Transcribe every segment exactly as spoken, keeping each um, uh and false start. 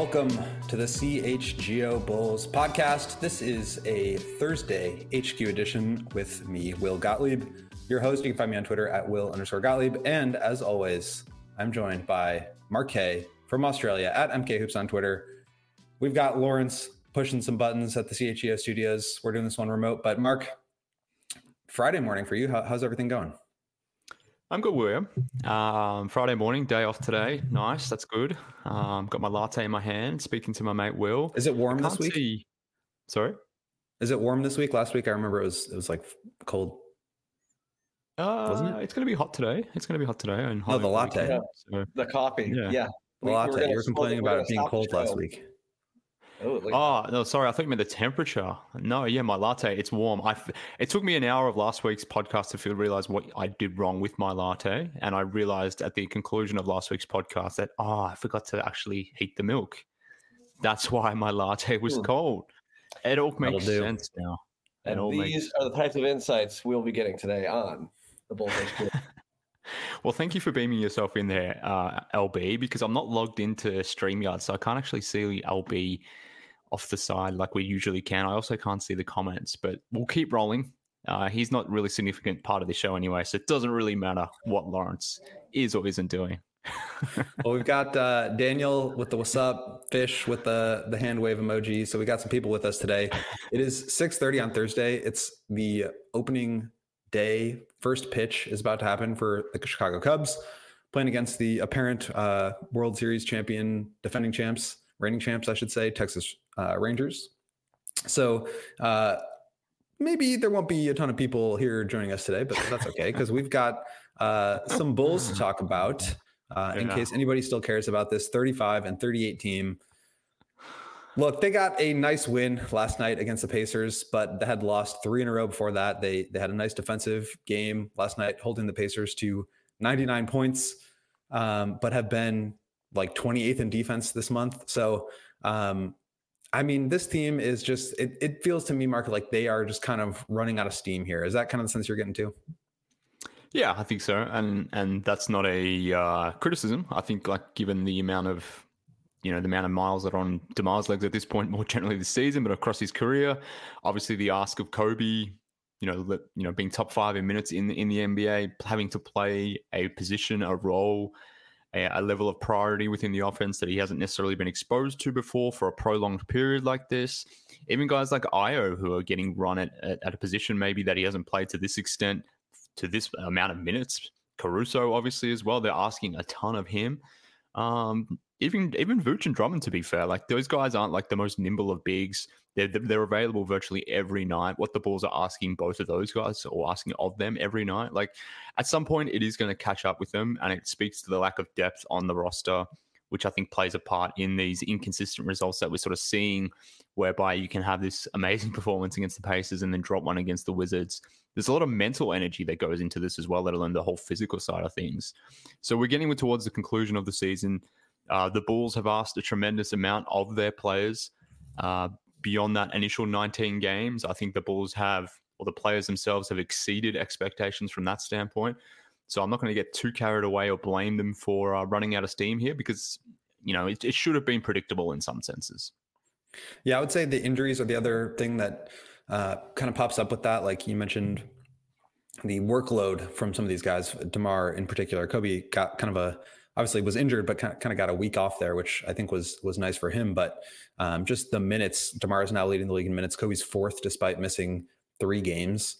Welcome to the C H G O Bulls podcast. This is a Thursday H Q edition with me, Will Gottlieb, your host. You can find me on Twitter at Will underscore Gottlieb. And as always, I'm joined by Mark K from Australia at M K Hoops on Twitter. We've got Lawrence pushing some buttons at the C H G O studios. We're doing this one remote, but Mark, Friday morning for you. How, how's everything going? I'm good, William. Um, Friday morning, day off today. Nice, that's good. Um, got my latte in my hand, speaking to my mate Will. Is it warm this week? See... Sorry? Is it warm this week? Last week, I remember it was it was like cold. Uh, Wasn't it? It's going to be hot today. It's going to be hot today. And oh, the latte. Yeah. So, the coffee. Yeah. yeah. The latte. You were complaining about it being cold last week. Oh, oh, no, sorry. I thought you meant the temperature. No, yeah, my latte, it's warm. I, it took me an hour of last week's podcast to feel, realize what I did wrong with my latte. And I realized at the conclusion of last week's podcast that, oh, I forgot to actually heat the milk. That's why my latte was hmm. cold. It all makes sense now. And all these makes... are the types of insights we'll be getting today on the Bulls H Q. Well, thank you for beaming yourself in there, uh, L B, because I'm not logged into StreamYard, so I can't actually see L B off the side like we usually can. I also can't see the comments, but we'll keep rolling. Uh, he's not really a significant part of the show anyway, so it doesn't really matter what Lawrence is or isn't doing. Well, we've got uh, Daniel with the what's up, Fish with the, the hand wave emoji. So we got some people with us today. It is six thirty on Thursday. It's the opening day. First pitch is about to happen for the Chicago Cubs, playing against the apparent uh, World Series champion, defending champs, reigning champs, I should say, Texas uh, Rangers. So uh, maybe there won't be a ton of people here joining us today, but that's okay because we've got uh, some Bulls to talk about uh, in yeah. case anybody still cares about this thirty-five and thirty-eight team. Look, they got a nice win last night against the Pacers, but they had lost three in a row before that. They they had a nice defensive game last night, holding the Pacers to ninety-nine points, um, but have been like twenty-eighth in defense this month. So, um, I mean, this team is just, it, it feels to me, Mark, like they are just kind of running out of steam here. Is that kind of the sense you're getting to? Yeah, I think so. And and that's not a uh, criticism. I think like given the amount of, you know, the amount of miles that are on DeMar's legs at this point, more generally this season, but across his career, obviously the ask of Kobe, you know, you know, being top five in minutes in, in the N B A, having to play a position, a role, a, a level of priority within the offense that he hasn't necessarily been exposed to before for a prolonged period like this. Even guys like Io who are getting run at, at, at a position maybe that he hasn't played to this extent, to this amount of minutes. Caruso, obviously, as well. They're asking a ton of him. Um, even even Vooch and Drummond, to be fair, like those guys aren't like the most nimble of bigs. They're, they're available virtually every night. What the Bulls are asking both of those guys or asking of them every night, like at some point it is going to catch up with them, and it speaks to the lack of depth on the roster, which I think plays a part in these inconsistent results that we're sort of seeing, whereby you can have this amazing performance against the Pacers and then drop one against the Wizards. There's a lot of mental energy that goes into this as well, let alone the whole physical side of things. So we're getting towards the conclusion of the season. Uh, the Bulls have asked a tremendous amount of their players. Uh, beyond that initial nineteen games, I think the Bulls have, or the players themselves have exceeded expectations from that standpoint. So I'm not going to get too carried away or blame them for uh, running out of steam here because, you know, it, it should have been predictable in some senses. Yeah, I would say the injuries are the other thing that uh, kind of pops up with that. Like you mentioned, the workload from some of these guys, DeMar in particular. Kobe got kind of a, obviously was injured, but kind of, kind of got a week off there, which I think was was nice for him. But um, just the minutes, DeMar is now leading the league in minutes. Kobe's fourth despite missing three games.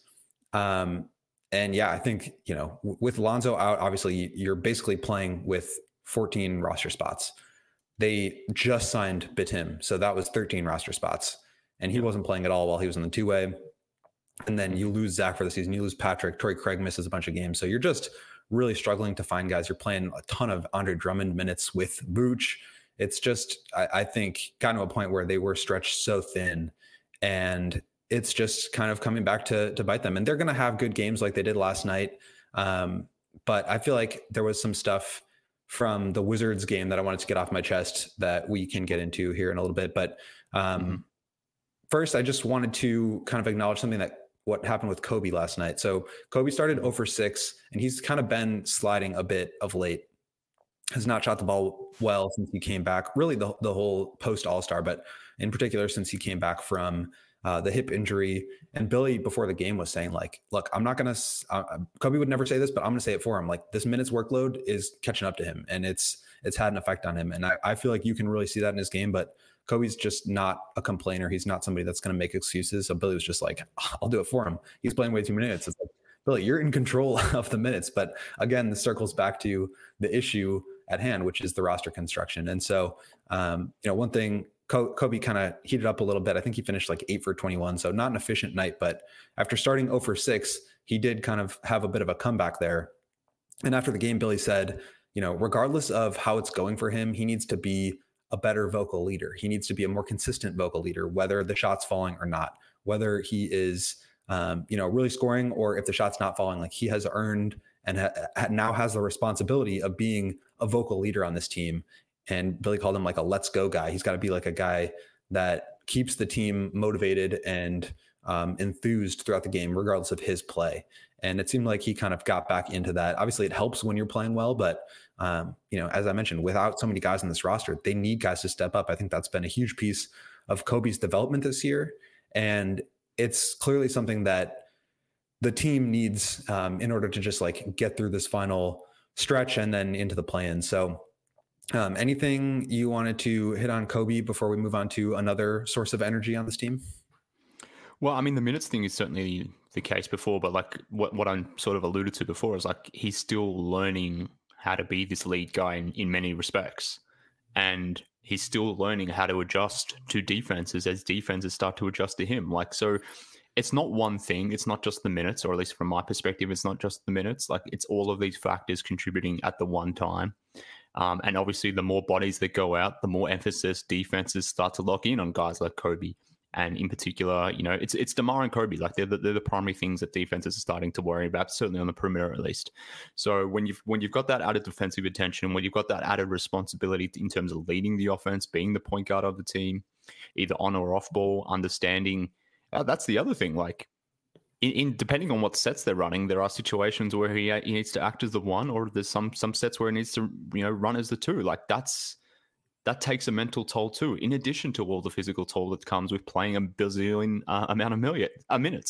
Um, and yeah, I think, you know, w- with Lonzo out, obviously you're basically playing with fourteen roster spots. They just signed Bitim, so that was thirteen roster spots. And he wasn't playing at all while he was in the two-way. And then you lose Zach for the season. You lose Patrick. Torrey Craig misses a bunch of games. So you're just really struggling to find guys. You're playing a ton of Andre Drummond minutes with Vooch. It's just, I, I think, gotten to a point where they were stretched so thin. And it's just kind of coming back to, to bite them. And they're going to have good games like they did last night. Um, but I feel like there was some stuff from the Wizards game that I wanted to get off my chest that we can get into here in a little bit. But um, mm-hmm. first, I just wanted to kind of acknowledge something that what happened with Kobe last night. So Kobe started zero for six, and he's kind of been sliding a bit of late. has not shot the ball well since he came back, really the, the whole post All-Star, but in particular since he came back from uh, the hip injury. And Billy before the game was saying like, look, I'm not going to, uh, Kobe would never say this, but I'm going to say it for him. Like this minutes workload is catching up to him and it's, it's had an effect on him. And I, I feel like you can really see that in his game, but Kobe's just not a complainer. He's not somebody that's going to make excuses. So Billy was just like, I'll do it for him. He's playing way too many minutes. It's like, Billy, you're in control of the minutes. But again, this circles back to the issue at hand, which is the roster construction. And so, um, you know, one thing Kobe kind of heated up a little bit. I think he finished like eight for twenty-one. So not an efficient night, but after starting zero for six, he did kind of have a bit of a comeback there. And after the game, Billy said, you know, regardless of how it's going for him, he needs to be a better vocal leader. He needs to be a more consistent vocal leader, whether the shot's falling or not, whether he is, um, you know, really scoring or if the shot's not falling. Like he has earned and ha- now has the responsibility of being a vocal leader on this team. And Billy called him like a let's go guy. He's got to be like a guy that keeps the team motivated and um, enthused throughout the game, regardless of his play. And it seemed like he kind of got back into that. Obviously, it helps when you're playing well, but um, you know, as I mentioned, without so many guys in this roster, they need guys to step up. I think that's been a huge piece of Kobe's development this year, and it's clearly something that the team needs um, in order to just like get through this final stretch and then into the play-in. So, um, anything you wanted to hit on Kobe before we move on to another source of energy on this team? Well, I mean, the minutes thing is certainly the case before, but like what, what I'm sort of alluded to before is like he's still learning how to be this lead guy in, in many respects. And he's still learning how to adjust to defenses as defenses start to adjust to him. Like, so it's not one thing. It's not just the minutes, or at least from my perspective, it's not just the minutes. Like it's all of these factors contributing at the one time. Um, and obviously the more bodies that go out, the more emphasis defenses start to lock in on guys like Kobe. And in particular, you know, it's it's DeMar and Kobe. Like they're the, they're the primary things that defenses are starting to worry about, certainly on the perimeter at least. So when you've when you've got that added defensive attention, when you've got that added responsibility in terms of leading the offense, being the point guard of the team, either on or off ball, understanding, uh, that's the other thing. Like in, in depending on what sets they're running, there are situations where he, he needs to act as the one, or there's some some sets where he needs to, you know, run as the two. Like that's. That takes a mental toll too, in addition to all the physical toll that comes with playing a bazillion uh, amount of million uh, minutes.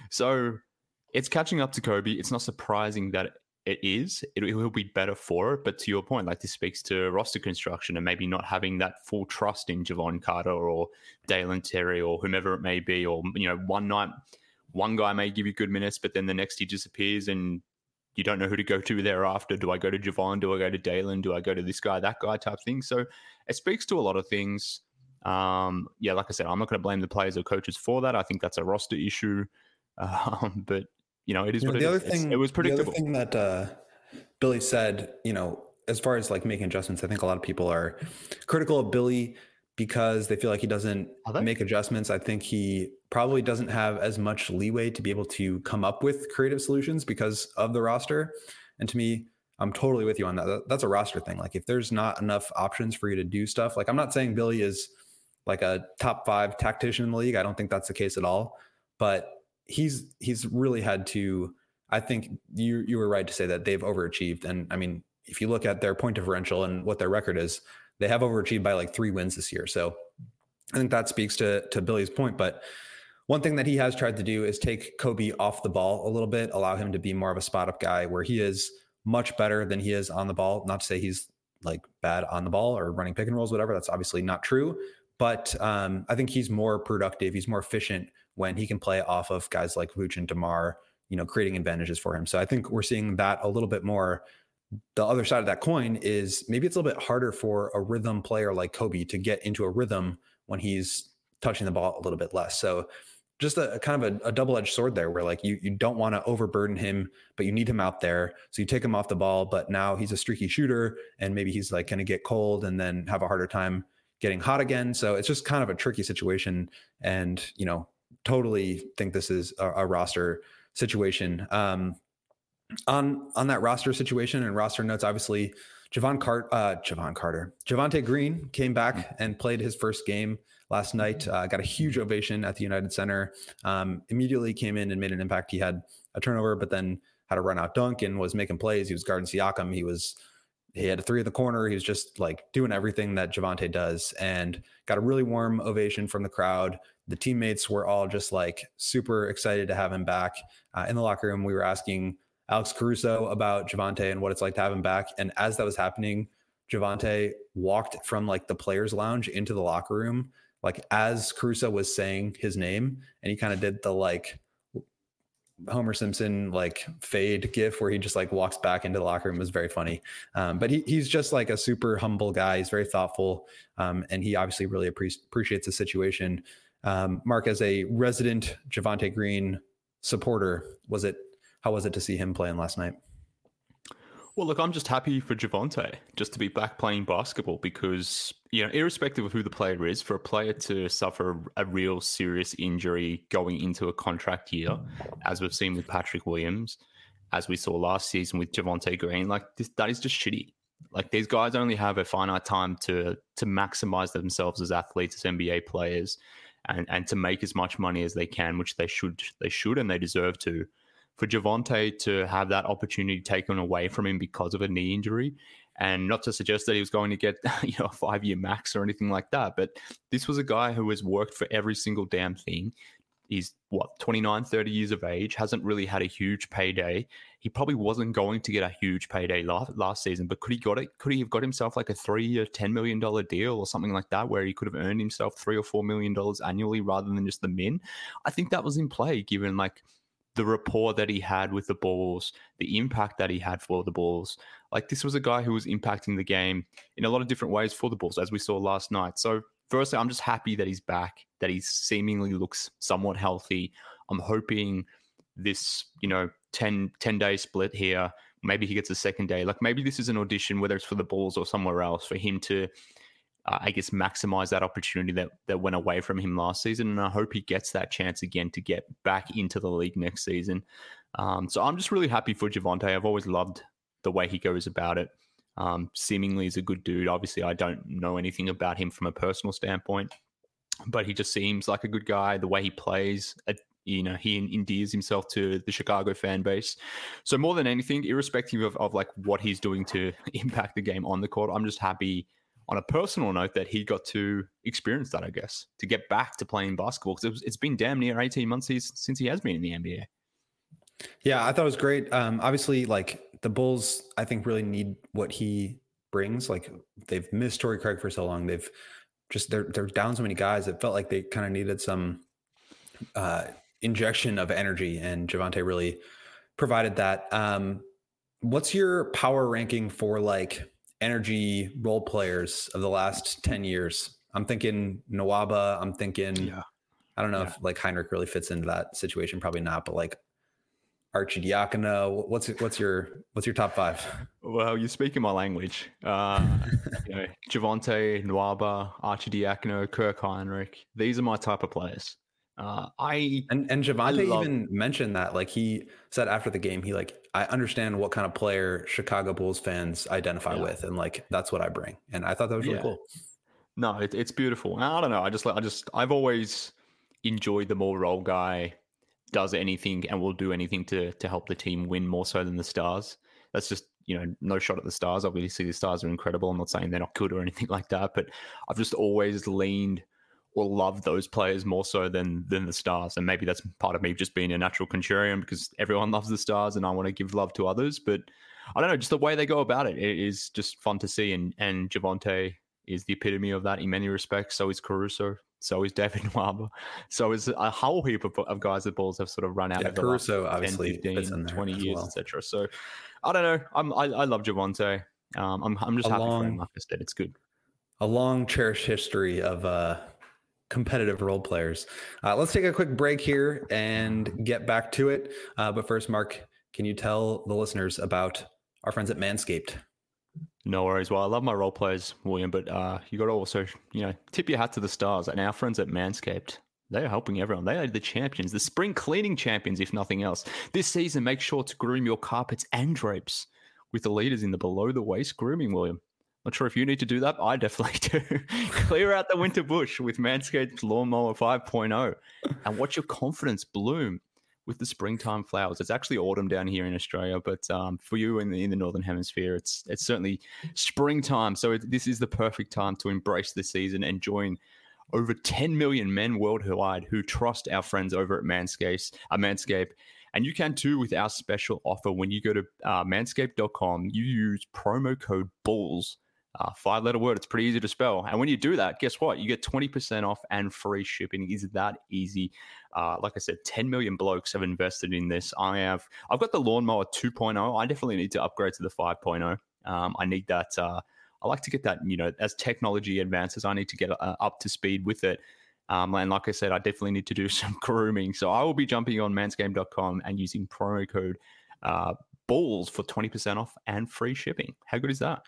So it's catching up to Kobe. It's not surprising that it is. It, it will be better for it. But to your point, like this speaks to roster construction and maybe not having that full trust in Jevon Carter or Dalen Terry or whomever it may be. Or, you know, one night, one guy may give you good minutes, but then the next he disappears and you don't know who to go to thereafter. Do I go to Jevon? Do I go to Dalen? Do I go to this guy, that guy type thing? So it speaks to a lot of things. Um, yeah, like I said, I'm not going to blame the players or coaches for that. I think that's a roster issue. Um, but, you know, it is you what know, it the is. Other thing, it was predictable. The other thing that uh, Billy said, you know, as far as like making adjustments, I think a lot of people are critical of Billy because they feel like he doesn't make adjustments. I think he probably doesn't have as much leeway to be able to come up with creative solutions because of the roster. And to me, I'm totally with you on that. That's a roster thing. Like if there's not enough options for you to do stuff, like I'm not saying Billy is like a top five tactician in the league. I don't think that's the case at all, but he's, he's really had to, I think you, you were right to say that they've overachieved. And I mean, if you look at their point differential and what their record is, they have overachieved by like three wins this year. So I think that speaks to, to Billy's point. But one thing that he has tried to do is take Kobe off the ball a little bit, allow him to be more of a spot up guy where he is much better than he is on the ball. Not to say he's like bad on the ball or running pick and rolls, whatever. That's obviously not true. But um, I think he's more productive. He's more efficient when he can play off of guys like Vooch and DeMar, you know, creating advantages for him. So I think we're seeing that a little bit more. The other side of that coin is maybe it's a little bit harder for a rhythm player like Kobe to get into a rhythm when he's touching the ball a little bit less. So just a, a kind of a, a double-edged sword there where like you, you don't want to overburden him, but you need him out there. So you take him off the ball, but now he's a streaky shooter and maybe he's like going to get cold and then have a harder time getting hot again. So it's just kind of a tricky situation. And, you know, totally think this is a, a roster situation. Um, on, on that roster situation and roster notes, obviously Jevon Carter, uh, Jevon Carter, Javonte Green came back and played his first game last night, uh, got a huge ovation at the United Center, um, immediately came in and made an impact. He had a turnover, but then had a run out dunk and was making plays. He was guarding Siakam. He was he had a three in the corner. He was just like doing everything that Javonte does, and got a really warm ovation from the crowd. The teammates were all just like super excited to have him back. Uh, in the locker room, we were asking Alex Caruso about Javonte and what it's like to have him back. And as that was happening, Javonte walked from like the players lounge into the locker room, like as Caruso was saying his name, and he kind of did the like Homer Simpson like fade gif where he just like walks back into the locker room. It was very funny. Um, but he, he's just like a super humble guy. He's very thoughtful. Um, and he obviously really appre- appreciates the situation. Um, Mark, as a resident Javonte Green supporter, was it, how was it to see him playing last night? Well, look, I'm just happy for Javonte just to be back playing basketball because, you know, irrespective of who the player is, for a player to suffer a real serious injury going into a contract year, as we've seen with Patrick Williams, as we saw last season with Javonte Green, like this, that is just shitty. Like these guys only have a finite time to to maximize themselves as athletes, as N B A players, and, and to make as much money as they can, which they should, they should, and they deserve to. For Javonte to have that opportunity taken away from him because of a knee injury, and not to suggest that he was going to get, you know, a five-year max or anything like that, but this was a guy who has worked for every single damn thing. He's, what, twenty-nine, thirty years of age, hasn't really had a huge payday. He probably wasn't going to get a huge payday last, last season, but could he got it? Could he have got himself like a three-year, ten million dollars deal or something like that, where he could have earned himself three or four million dollars annually rather than just the min? I think that was in play, given like the rapport that he had with the Bulls, the impact that he had for the Bulls. Like this was a guy who was impacting the game in a lot of different ways for the Bulls, as we saw last night. So firstly, I'm just happy that he's back, that he seemingly looks somewhat healthy. I'm hoping this, you know, ten, ten day split here, maybe he gets a second day. Like maybe this is an audition, whether it's for the Bulls or somewhere else, for him to, Uh, I guess, maximize that opportunity that, that went away from him last season. And I hope he gets that chance again to get back into the league next season. Um, so I'm just really happy for Javonte. I've always loved the way he goes about it. Um, seemingly is a good dude. Obviously, I don't know anything about him from a personal standpoint, but he just seems like a good guy. The way he plays, uh, you know, he endears himself to the Chicago fan base. So more than anything, irrespective of, of like what he's doing to impact the game on the court, I'm just happy on a personal note that he got to experience that, I guess, to get back to playing basketball. Because it was, it's been damn near eighteen months he's, since he has been in the N B A. Yeah, I thought it was great. Um, obviously, like the Bulls, I think really need what he brings. Like they've missed Torrey Craig for so long. They've just, they're, they're down so many guys. It felt like they kind of needed some uh, injection of energy, and Javonte really provided that. Um, what's your power ranking for like energy role players of the last ten years? I'm thinking Nwaba. I'm thinking, yeah. I don't know yeah. if like Heinrich really fits into that situation. Probably not, but like Arcidiacono, what's, what's your, what's your top five? Well, you're speaking my language. Uh, you know, Javonte, Nwaba, Arcidiacono, Kirk Heinrich. These are my type of players. Uh, I and and Javonte love, even mentioned that, like he said after the game, he like, I understand what kind of player Chicago Bulls fans identify yeah. with, and like that's what I bring. And I thought that was really yeah. cool. No, it, it's beautiful. And I don't know. I just like I just I've always enjoyed the more role guy does anything and will do anything to to help the team win more so than the stars. That's just, you know, no shot at the stars. Obviously, the stars are incredible. I'm not saying they're not good or anything like that, but I've just always leaned or love those players more so than than the stars. And maybe that's part of me just being a natural contrarian because everyone loves the stars and I want to give love to others. But I don't know, just the way they go about it, it is just fun to see. And and Javonte is the epitome of that in many respects. So is Caruso. So is David Nwaba. So is a whole heap of, of guys that Bulls have sort of run out yeah, of the Caruso last obviously ten, fifteen, twenty years, well. et cetera. So I don't know. I'm, I, I love Javonte. Um, I'm, I'm just a happy long, for him. Like I said, it's good. A long cherished history of uh, competitive role players. Uh, let's take a quick break here and get back to it. Uh, but first, Mark, can you tell the listeners about our friends at Manscaped? No worries. Well, I love my role players, William, but uh, you got to also, you know, tip your hat to the stars. And our friends at Manscaped, they are helping everyone. They are the champions, the spring cleaning champions, if nothing else. This season, make sure to groom your carpets and drapes with the leaders in the below-the-waist grooming, William. Not sure if you need to do that. I definitely do. Clear out the winter bush with Manscaped Lawnmower five point oh and watch your confidence bloom with the springtime flowers. It's actually autumn down here in Australia, but um, for you in the in the northern hemisphere, it's it's certainly springtime. So it, this is the perfect time to embrace the season and join over ten million men worldwide who trust our friends over at Manscaped. Uh, Manscaped. And you can too with our special offer. When you go to uh, manscaped dot com, you use promo code BULLS, uh, five-letter word. It's pretty easy to spell. And when you do that, guess what? You get twenty percent off and free shipping. Is that easy? Uh, like I said, ten million blokes have invested in this. I have. I've got the Lawnmower two point oh. I definitely need to upgrade to the five point oh. Um, I need that. Uh, I like to get that, you know, as technology advances, I need to get uh, up to speed with it. Um, and like I said, I definitely need to do some grooming. So I will be jumping on manscaped dot com and using promo code uh, BULLS for twenty percent off and free shipping. How good is that?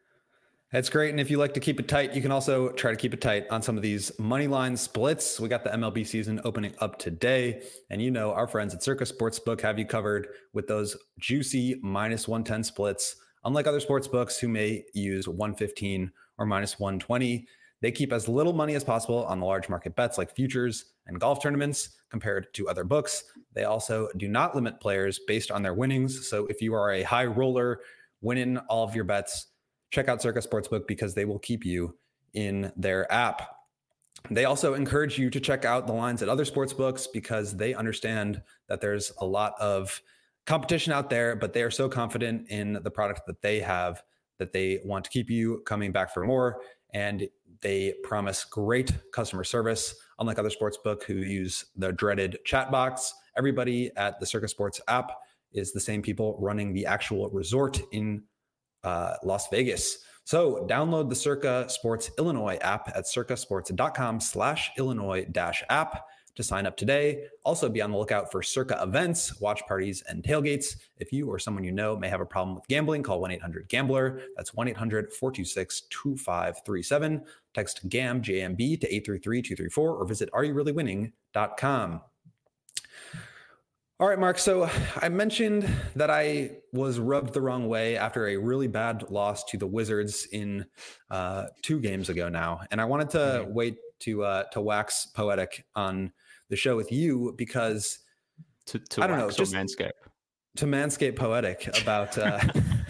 That's great. And if you like to keep it tight, you can also try to keep it tight on some of these money line splits. We got the M L B season opening up today. And you know, our friends at Circa Sportsbook have you covered with those juicy minus one ten splits. Unlike other sportsbooks who may use one fifteen or minus one twenty, they keep as little money as possible on the large market bets like futures and golf tournaments compared to other books. They also do not limit players based on their winnings. So if you are a high roller, winning all of your bets, check out Circa Sportsbook because they will keep you in their app. They also encourage you to check out the lines at other sportsbooks because they understand that there's a lot of competition out there, but they are so confident in the product that they have that they want to keep you coming back for more. And they promise great customer service. Unlike other sportsbook who use the dreaded chat box, everybody at the Circa Sports app is the same people running the actual resort in uh, Las Vegas. So download the Circa Sports Illinois app at circasports.com slash Illinois dash app to sign up today. Also be on the lookout for Circa events, watch parties, and tailgates. If you or someone you know may have a problem with gambling, call one eight hundred gambler. That's one eight hundred four two six two five three seven. Text G A M, J M B to eight three three two three four or visit are you really winning dot com. All right, Mark. So I mentioned that I was rubbed the wrong way after a really bad loss to the Wizards in uh, two games ago now. And I wanted to mm-hmm. wait to uh, to wax poetic on the show with you because to, to I don't know, just Manscaped. To Manscaped poetic about uh,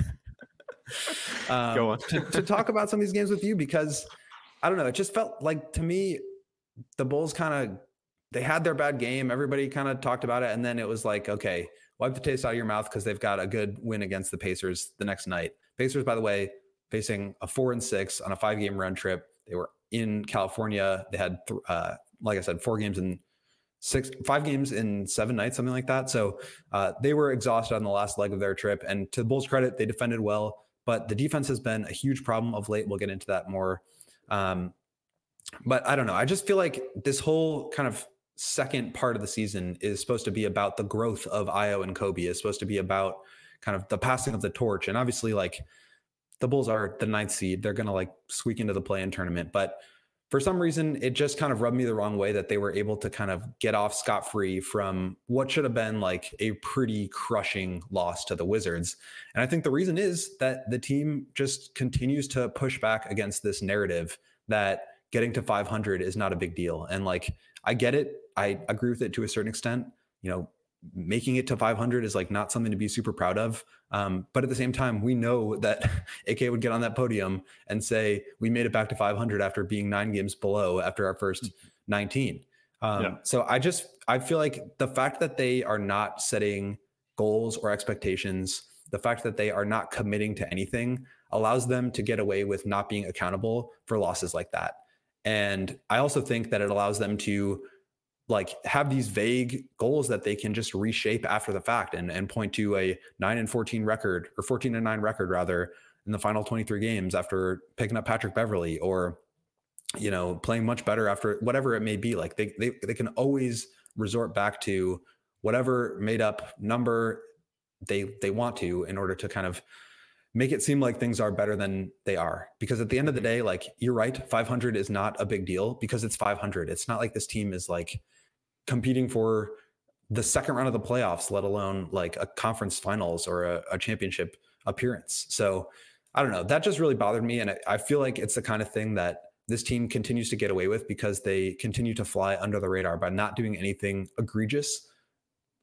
um, Go on. to, to talk about some of these games with you because I don't know, it just felt like to me the Bulls kind of they had their bad game. Everybody kind of talked about it. And then it was like, okay, wipe the taste out of your mouth because they've got a good win against the Pacers the next night. Pacers, by the way, facing a four and six on a five game round trip. They were in California. They had, uh, like I said, four games in six, five games in seven nights, something like that. So uh, they were exhausted on the last leg of their trip. And to the Bulls' credit, they defended well, but the defense has been a huge problem of late. We'll get into that more. Um, but I don't know. I just feel like this whole kind of second part of the season is supposed to be about the growth of Ayo and Kobe. Is supposed to be about kind of the passing of the torch. And obviously, like the Bulls are the ninth seed. They're going to like squeak into the play-in tournament. But for some reason, it just kind of rubbed me the wrong way that they were able to kind of get off scot-free from what should have been like a pretty crushing loss to the Wizards. And I think the reason is that the team just continues to push back against this narrative that getting to five hundred is not a big deal. And like, I get it. I agree with it to a certain extent. You know, making it to five hundred is like not something to be super proud of. Um, but at the same time, we know that A K would get on that podium and say, we made it back to five hundred after being nine games below after our first nineteen. Um, yeah. So I just, I feel like the fact that they are not setting goals or expectations, the fact that they are not committing to anything allows them to get away with not being accountable for losses like that. And I also think that it allows them to like have these vague goals that they can just reshape after the fact and, and point to a nine and fourteen record or fourteen and nine record rather in the final twenty-three games after picking up Patrick Beverley or, you know, playing much better after whatever it may be. Like they, they, they can always resort back to whatever made up number they, they want to in order to kind of make it seem like things are better than they are. Because at the end of the day, like you're right, five hundred is not a big deal because it's five hundred. It's not like this team is like competing for the second round of the playoffs, let alone like a conference finals or a, a championship appearance. So I don't know, that just really bothered me. And I, I feel like it's the kind of thing that this team continues to get away with because they continue to fly under the radar by not doing anything egregious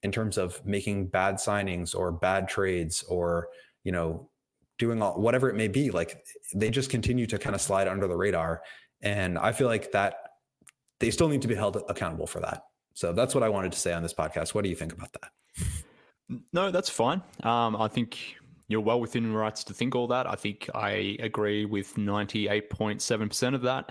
in terms of making bad signings or bad trades or, you know, doing all, whatever it may be. Like they just continue to kind of slide under the radar. And I feel like that they still need to be held accountable for that. So that's what I wanted to say on this podcast. What do you think about that? No, that's fine. Um, I think you're well within your rights to think all that. I think I agree with ninety-eight point seven percent of that.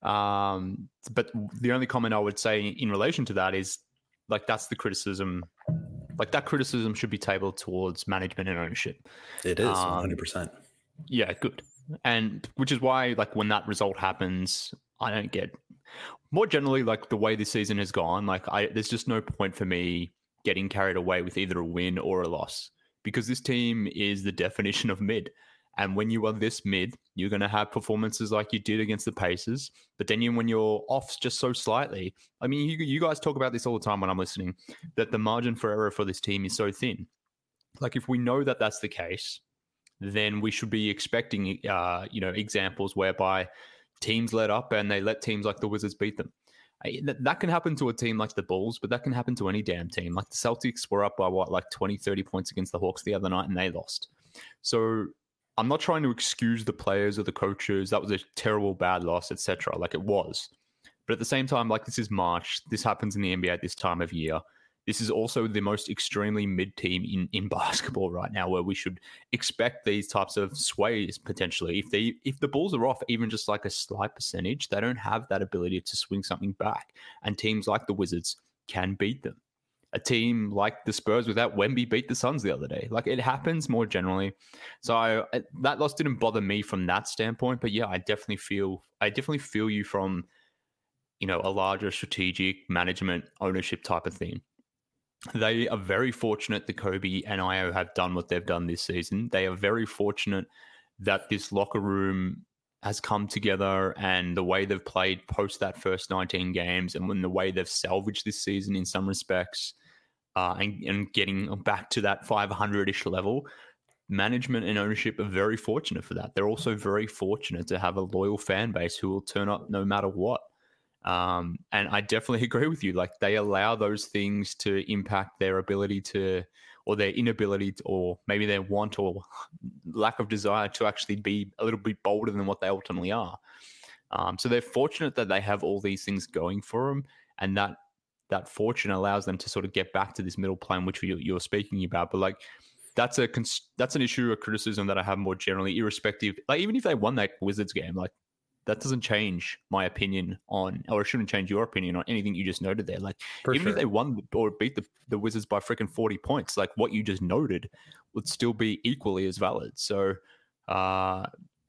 Um, but the only comment I would say in relation to that is like, that's the criticism, like that criticism should be tabled towards management and ownership. It is one hundred percent. Um, yeah, good. And which is why, like, when that result happens, I don't get, more generally, like the way this season has gone, like I, there's just no point for me getting carried away with either a win or a loss, because this team is the definition of mid. And when you are this mid, you're going to have performances like you did against the Pacers. But then you, when you're off just so slightly, I mean, you, you guys talk about this all the time when I'm listening, that the margin for error for this team is so thin. Like if we know that that's the case, then we should be expecting, uh, you know, examples whereby teams let up and they let teams like the Wizards beat them. That, that can happen to a team like the Bulls, but that can happen to any damn team. Like the Celtics were up by what, like twenty, thirty points against the Hawks the other night and they lost. So I'm not trying to excuse the players or the coaches. That was a terrible, bad loss, et cetera. Like it was. But at the same time, like this is March. This happens in the N B A at this time of year. This is also the most extremely mid team in, in basketball right now, where we should expect these types of sways potentially. If they if the Bulls are off even just like a slight percentage, they don't have that ability to swing something back. And teams like the Wizards can beat them. A team like the Spurs without Wemby beat the Suns the other day. Like it happens more generally. So I, that loss didn't bother me from that standpoint. But yeah, I definitely feel I definitely feel you from, you know, a larger strategic management ownership type of thing. They are very fortunate that Kobe and Io have done what they've done this season. They are very fortunate that this locker room has come together, and the way they've played post that first nineteen games, and when the way they've salvaged this season in some respects, uh, and, and getting back to that five hundred-ish level, management and ownership are very fortunate for that. They're also very fortunate to have a loyal fan base who will turn up no matter what. Um, and I definitely agree with you. Like they allow those things to impact their ability to, or their inability to, or maybe their want or lack of desire to actually be a little bit bolder than what they ultimately are. Um, so they're fortunate that they have all these things going for them, and that that fortune allows them to sort of get back to this middle plane, which you, you're speaking about. But like that's a that's an issue, a criticism that I have more generally, irrespective. Like even if they won that Wizards game, like. That doesn't change my opinion on, or it shouldn't change your opinion on anything you just noted there. Like, For even sure. if they won or beat the, the Wizards by freaking forty points, like what you just noted would still be equally as valid. So, uh,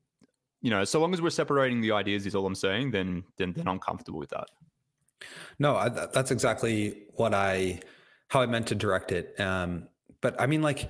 you know, so long as we're separating the ideas is all I'm saying, then, then, then I'm comfortable with that. No, I, that's exactly what I, how I meant to direct it. Um, but I mean, like,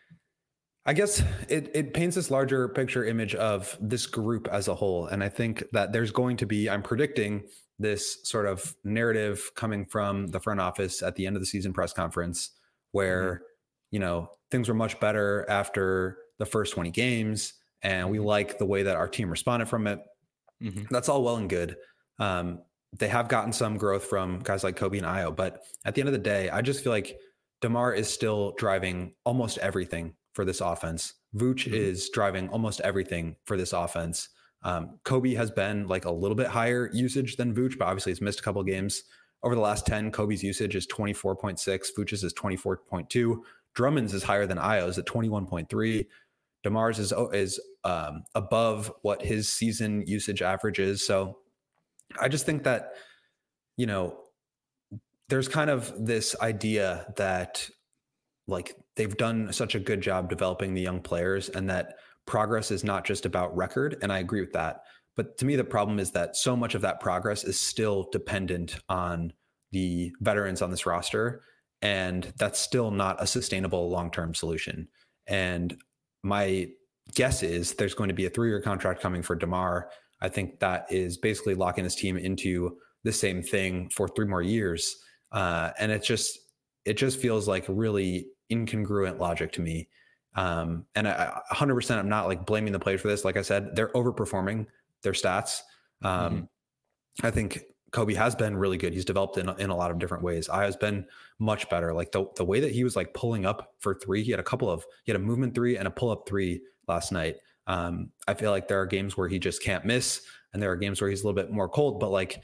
I guess it, it paints this larger picture image of this group as a whole. And I think that there's going to be, I'm predicting this sort of narrative coming from the front office at the end of the season press conference where, mm-hmm. you know, things were much better after the first twenty games. And we like the way that our team responded from it. Mm-hmm. That's all well and good. Um, they have gotten some growth from guys like Kobe and Io. But at the end of the day, I just feel like DeMar is still driving almost everything for this offense. Vooch mm-hmm. is driving almost everything for this offense. Um, Kobe has been like a little bit higher usage than Vooch, but obviously he's missed a couple of games. Over the last ten, Kobe's usage is twenty-four point six. Vooch's is twenty-four point two. Drummond's is higher than Io's at twenty-one point three. DeMar's is, is um, above what his season usage average is. So I just think that, you know, there's kind of this idea that like they've done such a good job developing the young players and that progress is not just about record. And I agree with that. But to me, the problem is that so much of that progress is still dependent on the veterans on this roster. And that's still not a sustainable long-term solution. And my guess is there's going to be a three-year contract coming for DeMar. I think that is basically locking this team into the same thing for three more years. Uh, and it just, it just feels like really incongruent logic to me. Um, and I, one hundred percent, I'm not like blaming the players for this. Like I said, they're overperforming their stats. Um, mm-hmm. I think Kobe has been really good. He's developed in, in a lot of different ways. I has been much better. Like the, the way that he was like pulling up for three, he had a couple of, he had a movement three and a pull up three last night. Um, I feel like there are games where he just can't miss, and there are games where he's a little bit more cold, but like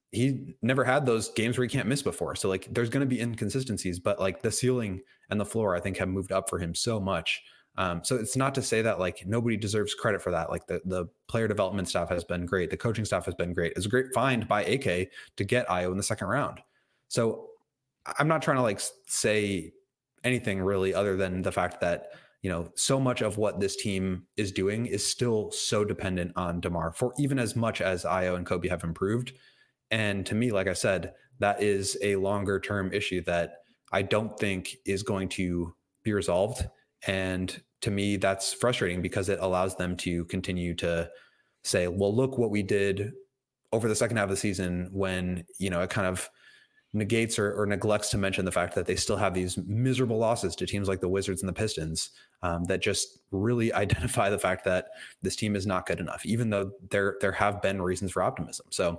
he never had those games where he can't miss before. So like there's going to be inconsistencies, but like the ceiling and the floor, I think, have moved up for him so much. Um, so it's not to say that like nobody deserves credit for that. Like the, the player development staff has been great. The coaching staff has been great. It's a great find by A K to get Ayo in the second round. So I'm not trying to like say anything really other than the fact that, you know, so much of what this team is doing is still so dependent on DeMar, for even as much as Ayo and Kobe have improved. And to me, like I said, that is a longer term issue that I don't think is going to be resolved. And to me, that's frustrating because it allows them to continue to say, well, look what we did over the second half of the season, when, you know, it kind of negates or, or neglects to mention the fact that they still have these miserable losses to teams like the Wizards and the Pistons um, that just really identify the fact that this team is not good enough, even though there, there have been reasons for optimism. So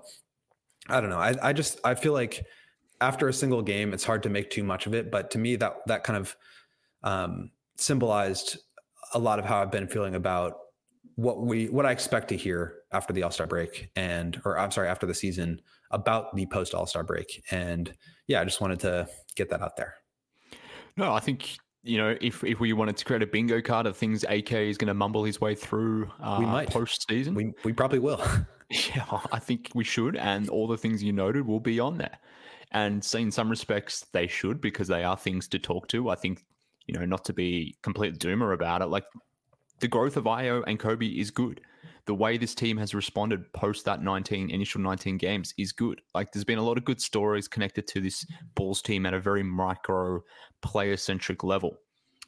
I don't know. I, I just, I feel like after a single game, it's hard to make too much of it. But to me, that, that kind of, um, symbolized a lot of how I've been feeling about what we, what I expect to hear after the All-Star break and, or I'm sorry, after the season about the post All-Star break. And yeah, I just wanted to get that out there. No, I think, you know, if, if we wanted to create a bingo card of things A K is going to mumble his way through uh, we might. post season. We, we probably will. Yeah, I think we should. And all the things you noted will be on there. And in some respects, they should, because they are things to talk to. I think, you know, not to be complete doomer about it, like the growth of Ayo and Kobe is good. The way this team has responded post that nineteen initial nineteen games is good. Like there's been a lot of good stories connected to this Bulls team at a very micro player centric level.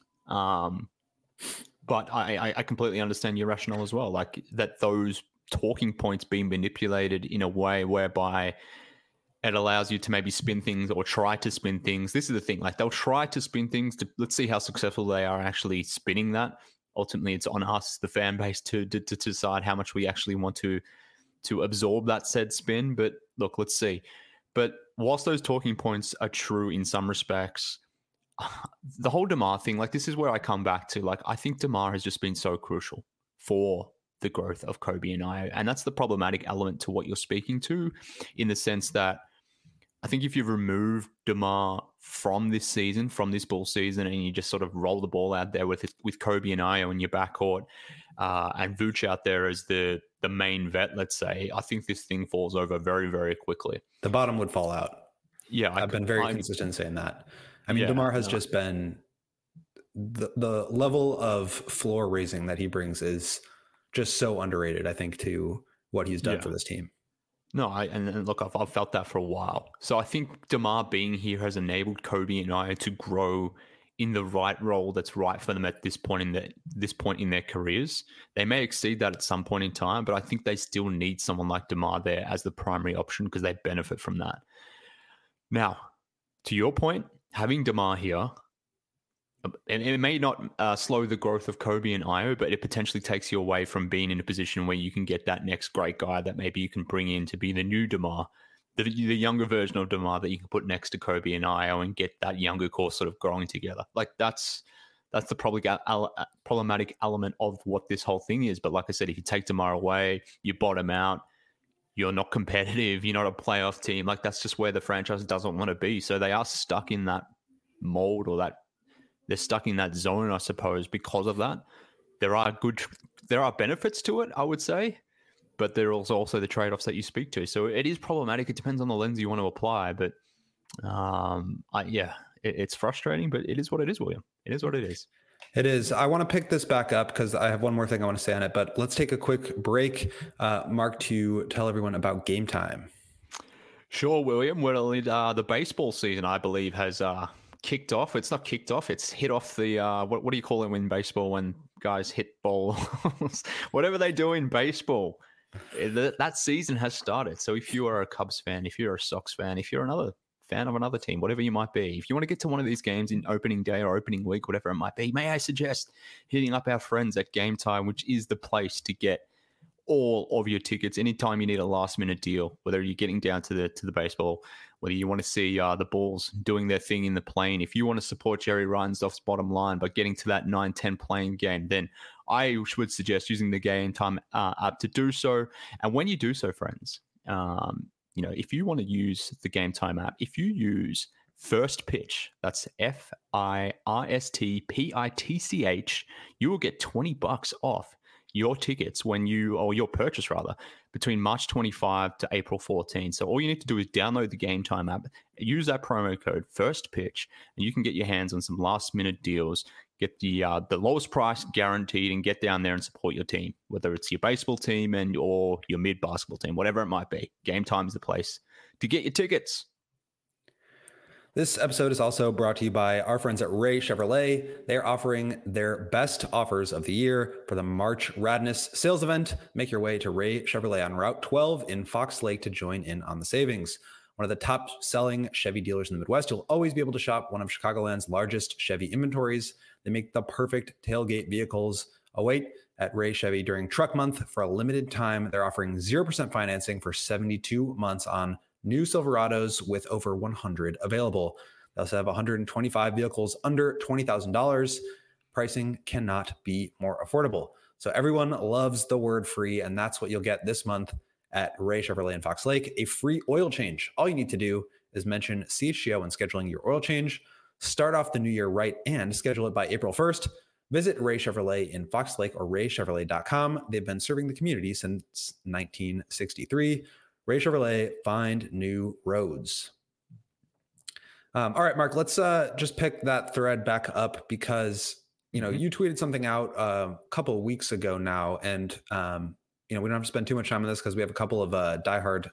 Um, but I, I completely understand your rationale as well. Like that those talking points being manipulated in a way whereby it allows you to maybe spin things or try to spin things. This is the thing, like they'll try to spin things to, let's see how successful they are actually spinning that. Ultimately, it's on us, the fan base, to, to, to decide how much we actually want to, to absorb that said spin. But look, let's see. But whilst those talking points are true in some respects, the whole DeMar thing, like this is where I come back to, like, I think DeMar has just been so crucial for the growth of Kobe and Ayo. And that's the problematic element to what you're speaking to, in the sense that I think if you remove DeMar from this season, from this Bull season, and you just sort of roll the ball out there with with Kobe and Ayo in your backcourt, uh, and Vooch out there as the the main vet, let's say, I think this thing falls over very, very quickly. The bottom would fall out. Yeah, I've I, been very I, consistent in saying that. I mean, yeah, DeMar has no. just been the the level of floor raising that he brings is just so underrated, I think, to what he's done Yeah. for this team. No, I, and, and look, I've, I've felt that for a while. So I think DeMar being here has enabled Kobe and Ayo to grow in the right role that's right for them at this point in the, this point in their careers. They may exceed that at some point in time, but I think they still need someone like DeMar there as the primary option because they benefit from that. Now, to your point, having DeMar here, and it may not uh, slow the growth of Kobe and Ayo, but it potentially takes you away from being in a position where you can get that next great guy that maybe you can bring in to be the new DeMar, the, the younger version of DeMar that you can put next to Kobe and Ayo and get that younger core sort of growing together. Like that's that's the probably problematic element of what this whole thing is. But like I said, if you take DeMar away, you bottom out, you're not competitive, you're not a playoff team. Like that's just where the franchise doesn't want to be. So they are stuck in that mold or that they're stuck in that zone, I suppose, because of that. There are good, there are benefits to it, I would say, but there are also, also the trade-offs that you speak to. So it is problematic. It depends on the lens you want to apply, but um, I, yeah, it, it's frustrating, but it is what it is, William. It is what it is. It is. I want to pick this back up because I have one more thing I want to say on it, but let's take a quick break, uh, Mark, to tell everyone about Game Time. Sure, William. Well, uh, the baseball season, I believe, has uh, kicked off. It's not kicked off. It's hit off the, uh, what, what do you call it in baseball when guys hit balls? Whatever they do in baseball. That season has started. So if you are a Cubs fan, if you're a Sox fan, if you're another fan of another team, whatever you might be, if you want to get to one of these games in opening day or opening week, whatever it might be, may I suggest hitting up our friends at Game Time, which is the place to get all of your tickets. Anytime you need a last minute deal, whether you're getting down to the to the baseball, whether you want to see uh, the Bulls doing their thing in the plane, if you want to support Jerry Reinsdorf's bottom line by getting to that nine ten playing game, then I would suggest using the Game Time uh, app to do so. And when you do so, friends, um, you know, if you want to use the Game Time app, if you use First Pitch, that's F I R S T P I T C H, you will get twenty bucks off your tickets when you, or your purchase rather, between March twenty-fifth to April fourteenth. So all you need to do is download the Game Time app, use that promo code First Pitch, and you can get your hands on some last minute deals, get the uh, the lowest price guaranteed, and get down there and support your team, whether it's your baseball team and or your mid basketball team, whatever it might be. Game Time is the place to get your tickets. This episode is also brought to you by our friends at Ray Chevrolet. They're offering their best offers of the year for the March Radness sales event. Make your way to Ray Chevrolet on Route twelve in Fox Lake to join in on the savings. One of the top selling Chevy dealers in the Midwest, you'll always be able to shop one of Chicagoland's largest Chevy inventories. They make the perfect tailgate vehicles. Await at Ray Chevy during Truck Month. For a limited time, they're offering zero percent financing for seventy-two months on new Silverados with over one hundred available. They also have one hundred twenty-five vehicles under twenty thousand dollars. Pricing cannot be more affordable. So everyone loves the word free, and that's what you'll get this month at Ray Chevrolet in Fox Lake, a free oil change. All you need to do is mention C H G O when scheduling your oil change. Start off the new year right and schedule it by April first. Visit Ray Chevrolet in Fox Lake or ray chevrolet dot com. They've been serving the community since nineteen sixty-three. Ray Chevrolet, find new roads. Um, all right, Mark, let's uh, just pick that thread back up because, you know, mm-hmm. you tweeted something out uh, a couple of weeks ago now. And, um, you know, we don't have to spend too much time on this because we have a couple of uh, diehard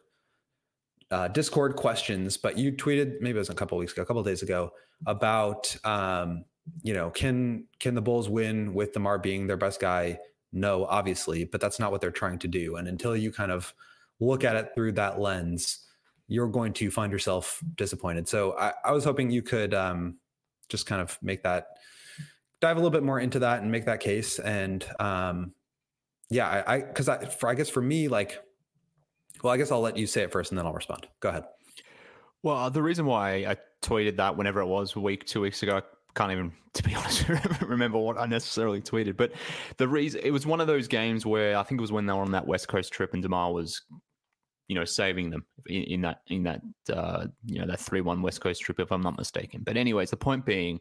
uh, Discord questions. But you tweeted, maybe it was a couple of weeks ago, a couple of days ago, about, um, you know, can can the Bulls win with DeMar being their best guy? No, obviously, but that's not what they're trying to do. And until you kind of look at it through that lens, you're going to find yourself disappointed. So I, I was hoping you could um, just kind of make that, dive a little bit more into that and make that case. And um, yeah, I, I, cause I, for, I guess for me, like, well, I guess I'll let you say it first and then I'll respond. Go ahead. Well, the reason why I tweeted that whenever it was a week, two weeks ago, I can't even, to be honest, remember what I necessarily tweeted. But the reason, it was one of those games where I think it was when they were on that West Coast trip and DeMar was, you know, saving them in, in that, in that, uh, you know, that three one West Coast trip, if I'm not mistaken. But anyways, the point being,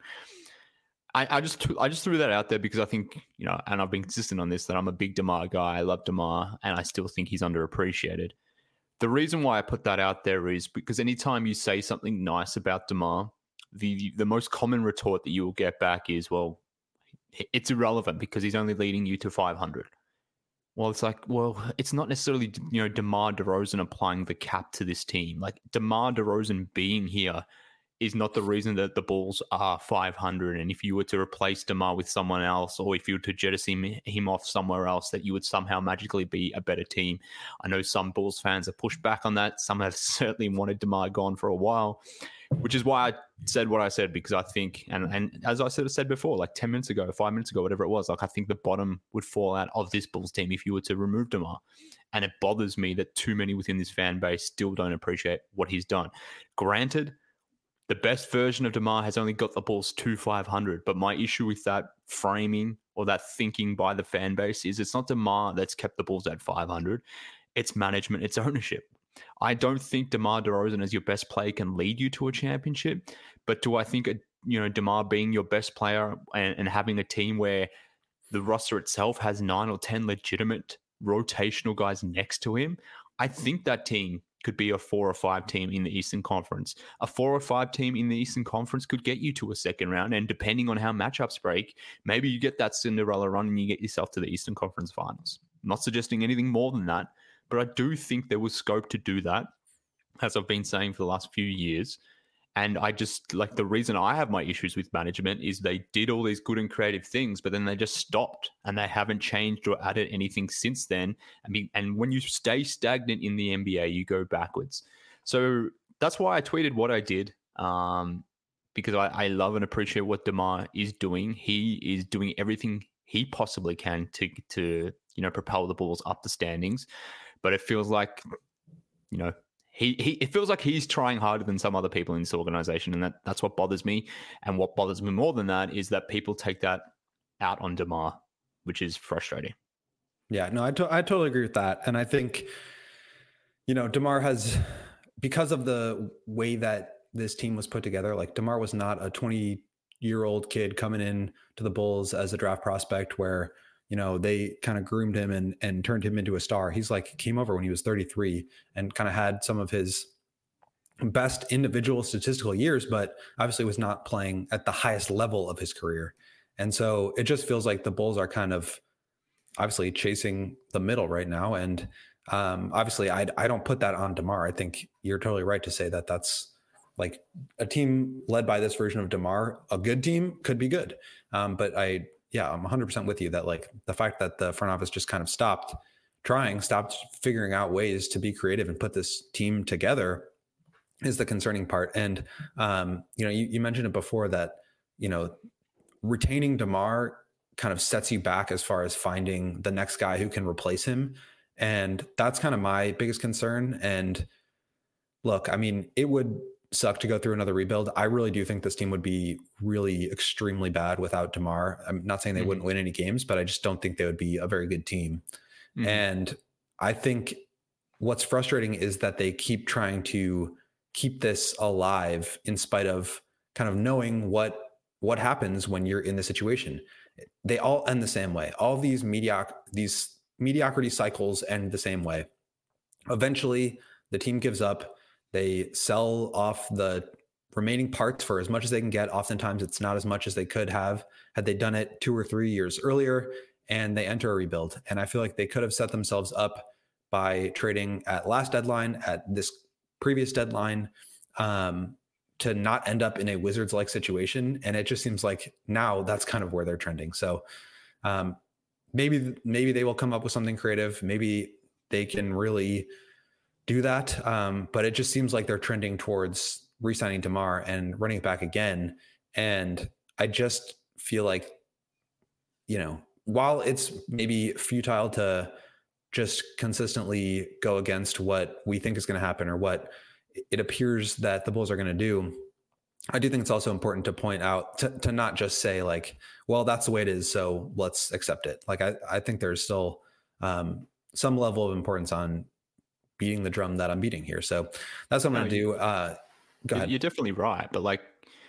I, I just, I just threw that out there because I think, you know, and I've been consistent on this, that I'm a big DeMar guy. I love DeMar and I still think he's underappreciated. The reason why I put that out there is because anytime you say something nice about DeMar, the the most common retort that you will get back is, well, it's irrelevant because he's only leading you to five hundred. Well, it's like, well, it's not necessarily, you know, DeMar DeRozan applying the cap to this team. Like DeMar DeRozan being here is not the reason that the Bulls are five hundred. And if you were to replace DeMar with someone else, or if you were to jettison him off somewhere else, that you would somehow magically be a better team. I know some Bulls fans have pushed back on that. Some have certainly wanted DeMar gone for a while, which is why I said what I said, because I think, and, and as I sort of said before, like ten minutes ago, five minutes ago, whatever it was, like I think the bottom would fall out of this Bulls team if you were to remove DeMar. And it bothers me that too many within this fan base still don't appreciate what he's done. Granted, the best version of DeMar has only got the Bulls to five hundred, but my issue with that framing or that thinking by the fan base is it's not DeMar that's kept the Bulls at five hundred. It's management, it's ownership. I don't think DeMar DeRozan as your best player can lead you to a championship, but do I think, you know, DeMar being your best player and, and having a team where the roster itself has nine or ten legitimate rotational guys next to him, I think that team could be a four or five team in the Eastern Conference. A four or five team in the Eastern Conference could get you to a second round. And depending on how matchups break, maybe you get that Cinderella run and you get yourself to the Eastern Conference Finals. I'm not suggesting anything more than that, but I do think there was scope to do that, as I've been saying for the last few years. And I just, like, the reason I have my issues with management is they did all these good and creative things, but then they just stopped and they haven't changed or added anything since then. I mean, and when you stay stagnant in the N B A, you go backwards. So that's why I tweeted what I did, um, because I, I love and appreciate what DeMar is doing. He is doing everything he possibly can to to you know, propel the Bulls up the standings. But it feels like, you know, he, he it feels like he's trying harder than some other people in this organization. And that, that's what bothers me. And what bothers me more than that is that people take that out on DeMar, which is frustrating. Yeah, no, I, to- I totally agree with that. And I think, you know, DeMar has, because of the way that this team was put together, like DeMar was not a twenty year old kid coming in to the Bulls as a draft prospect where, you know, they kind of groomed him and, and turned him into a star. He's like came over when he was thirty-three and kind of had some of his best individual statistical years, but obviously was not playing at the highest level of his career. And so it just feels like the Bulls are kind of obviously chasing the middle right now. And um, obviously I, I don't put that on DeMar. I think you're totally right to say that that's like a team led by this version of DeMar, a good team could be good. Um, but I, yeah, I'm one hundred percent with you that like the fact that the front office just kind of stopped trying, stopped figuring out ways to be creative and put this team together is the concerning part. And, um, you know, you, you mentioned it before that, you know, retaining DeMar kind of sets you back as far as finding the next guy who can replace him. And that's kind of my biggest concern. And look, I mean, it would suck to go through another rebuild. I really do think this team would be really extremely bad without DeMar. I'm not saying they mm-hmm. wouldn't win any games, but I just don't think they would be a very good team. Mm-hmm. And I think what's frustrating is that they keep trying to keep this alive in spite of kind of knowing what what happens when you're in the situation. They all end the same way. All these medioc these mediocrity cycles end the same way. Eventually, the team gives up. They sell off the remaining parts for as much as they can get. Oftentimes, it's not as much as they could have had they done it two or three years earlier, and they enter a rebuild. And I feel like they could have set themselves up by trading at last deadline, at this previous deadline, um, to not end up in a Wizards-like situation. And it just seems like now that's kind of where they're trending. So um, maybe maybe they will come up with something creative. Maybe they can really do that. Um, but it just seems like they're trending towards re-signing DeMar and running it back again. And I just feel like, you know, while it's maybe futile to just consistently go against what we think is going to happen or what it appears that the Bulls are going to do, I do think it's also important to point out to, to not just say like, well, that's the way it is, so let's accept it. Like, I, I think there's still um, some level of importance on beating the drum that I'm beating here. So that's what I'm no, going to do. Uh, go ahead. You're definitely right. But like,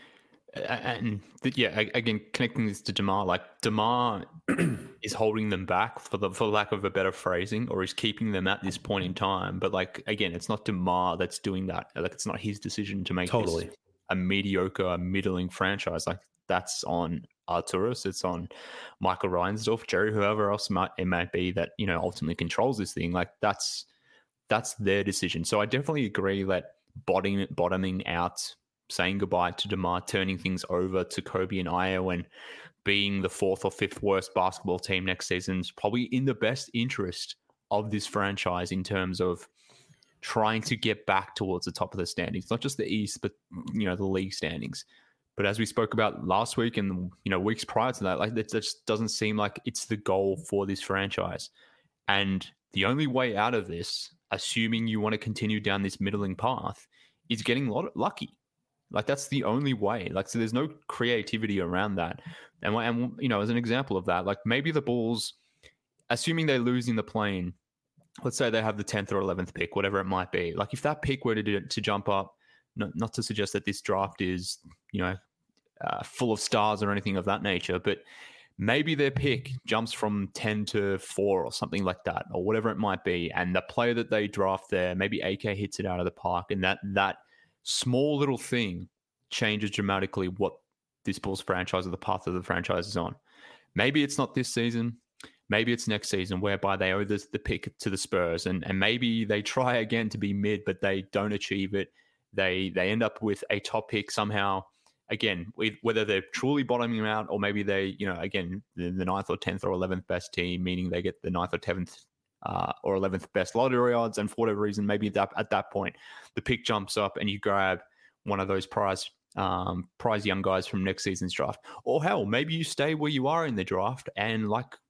and yeah, again, connecting this to DeMar, like DeMar is holding them back for the, for lack of a better phrasing, or is keeping them at this point in time. But like, again, it's not DeMar that's doing that. Like, it's not his decision to make totally this a mediocre, middling franchise. Like, that's on Arturas, it's on Michael Reinsdorf, Jerry, whoever else might, it might be that, you know, ultimately controls this thing. Like, that's that's their decision. So I definitely agree that bottoming bottoming out, saying goodbye to DeMar, turning things over to Kobe and Ayo, and being the fourth or fifth worst basketball team next season is probably in the best interest of this franchise in terms of trying to get back towards the top of the standings, not just the East, but, you know, the league standings. But as we spoke about last week and, you know, weeks prior to that, like, that just doesn't seem like it's the goal for this franchise. And the only way out of this, assuming you want to continue down this middling path, is getting lucky. Like, that's the only way. Like, so there's no creativity around that. And, and you know, as an example of that, like, maybe the Bulls, assuming they lose in the play-in, let's say they have the tenth or eleventh pick, whatever it might be. Like, if that pick were to do, to jump up, not, not to suggest that this draft is, you know, uh, full of stars or anything of that nature, but maybe their pick jumps from ten to four or something like that, or whatever it might be. And the player that they draft there, maybe A K hits it out of the park, and that that small little thing changes dramatically what this Bulls franchise or the path of the franchise is on. Maybe it's not this season. Maybe it's next season, whereby they owe this, the pick to the Spurs, and, and maybe they try again to be mid, but they don't achieve it. They they end up with a top pick somehow. Again, whether they're truly bottoming out, or maybe they, you know, again, the, the ninth or tenth or eleventh best team, meaning they get the ninth or tenth uh, or eleventh best lottery odds, and for whatever reason, maybe that, at that point, the pick jumps up and you grab one of those prize um, prize young guys from next season's draft. Or hell, maybe you stay where you are in the draft, and like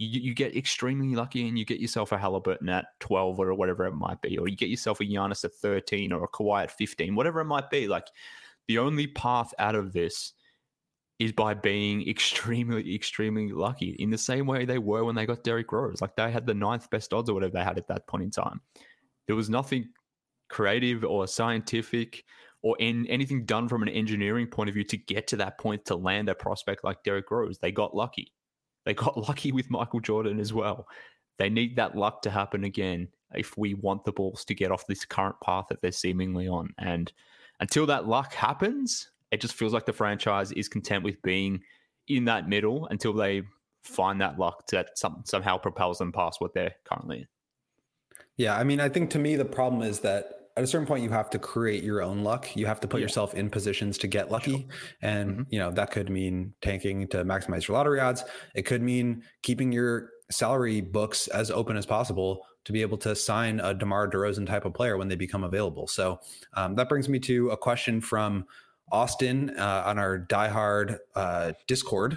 you, you get extremely lucky and you get yourself a Halliburton at twelve or whatever it might be, or you get yourself a Giannis at thirteen or a Kawhi at fifteen, whatever it might be. Like, the only path out of this is by being extremely, extremely lucky, in the same way they were when they got Derrick Rose. Like, they had the ninth best odds or whatever they had at that point in time. There was nothing creative or scientific or in anything done from an engineering point of view to get to that point to land a prospect like Derrick Rose. They got lucky. They got lucky with Michael Jordan as well. They need that luck to happen again if we want the Bulls to get off this current path that they're seemingly on. And until that luck happens, it just feels like the franchise is content with being in that middle until they find that luck that some, somehow propels them past what they're currently in. Yeah, I mean, I think to me, the problem is that at a certain point, you have to create your own luck. You have to put yeah. yourself in positions to get lucky. Sure. And, mm-hmm. you know, that could mean tanking to maximize your lottery odds. It could mean keeping your salary books as open as possible to be able to sign a DeMar DeRozan type of player when they become available. So um, that brings me to a question from Austin uh, on our diehard uh, Discord.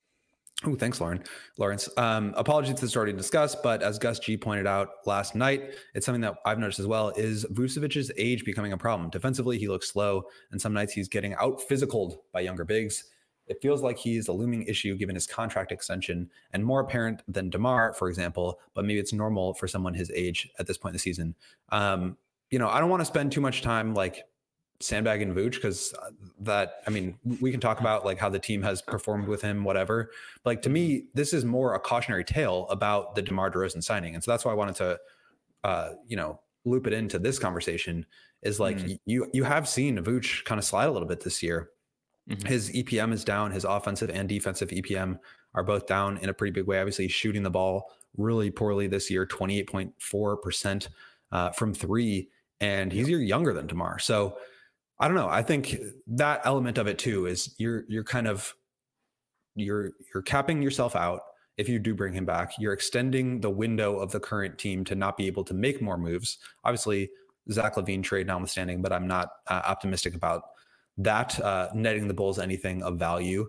Oh, thanks, Lauren. Lawrence. Um, apologies to this already discussed, but as Gus G pointed out last night, it's something that I've noticed as well, is Vucevic's age becoming a problem. Defensively, he looks slow, and some nights he's getting out-physicaled by younger bigs. It feels like he's a looming issue given his contract extension and more apparent than DeMar, for example, but maybe it's normal for someone his age at this point in the season. Um, you know, I don't want to spend too much time like sandbagging Vooch, because that, I mean, we can talk about like how the team has performed with him, whatever. But like, to me, this is more a cautionary tale about the DeMar DeRozan signing. And so that's why I wanted to, uh, you know, loop it into this conversation is like, mm-hmm. you, you have seen Vooch kind of slide a little bit this year. Mm-hmm. His E P M is down. His offensive and defensive E P M are both down in a pretty big way. Obviously, he's shooting the ball really poorly this year, twenty-eight point four percent uh, from three. And he's younger than DeMar. So I don't know. I think that element of it too is you're you're kind of you're you're capping yourself out if you do bring him back. You're extending the window of the current team to not be able to make more moves. Obviously, Zach LaVine trade notwithstanding, but I'm not uh, optimistic about that uh, netting the Bulls anything of value.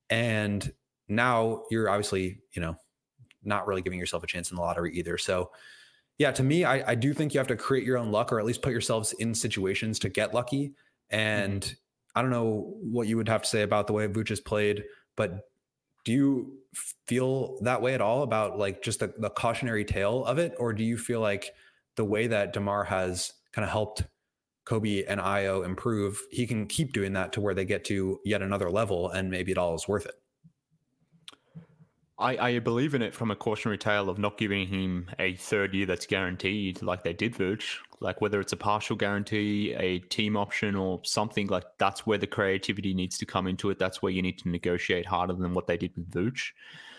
And now you're obviously, you know, not really giving yourself a chance in the lottery either. So yeah, to me, I, I do think you have to create your own luck, or at least put yourselves in situations to get lucky. And mm-hmm. I don't know what you would have to say about the way Vooch has played, but do you feel that way at all about like just the, the cautionary tale of it? Or do you feel like the way that DeMar has kind of helped Kobe and Ayo improve, he can keep doing that to where they get to yet another level and maybe it all is worth it? I, I believe in it from a cautionary tale of not giving him a third year that's guaranteed like they did Vooch. Like whether it's a partial guarantee, a team option or something, like that's where the creativity needs to come into it. That's where you need to negotiate harder than what they did with Vooch.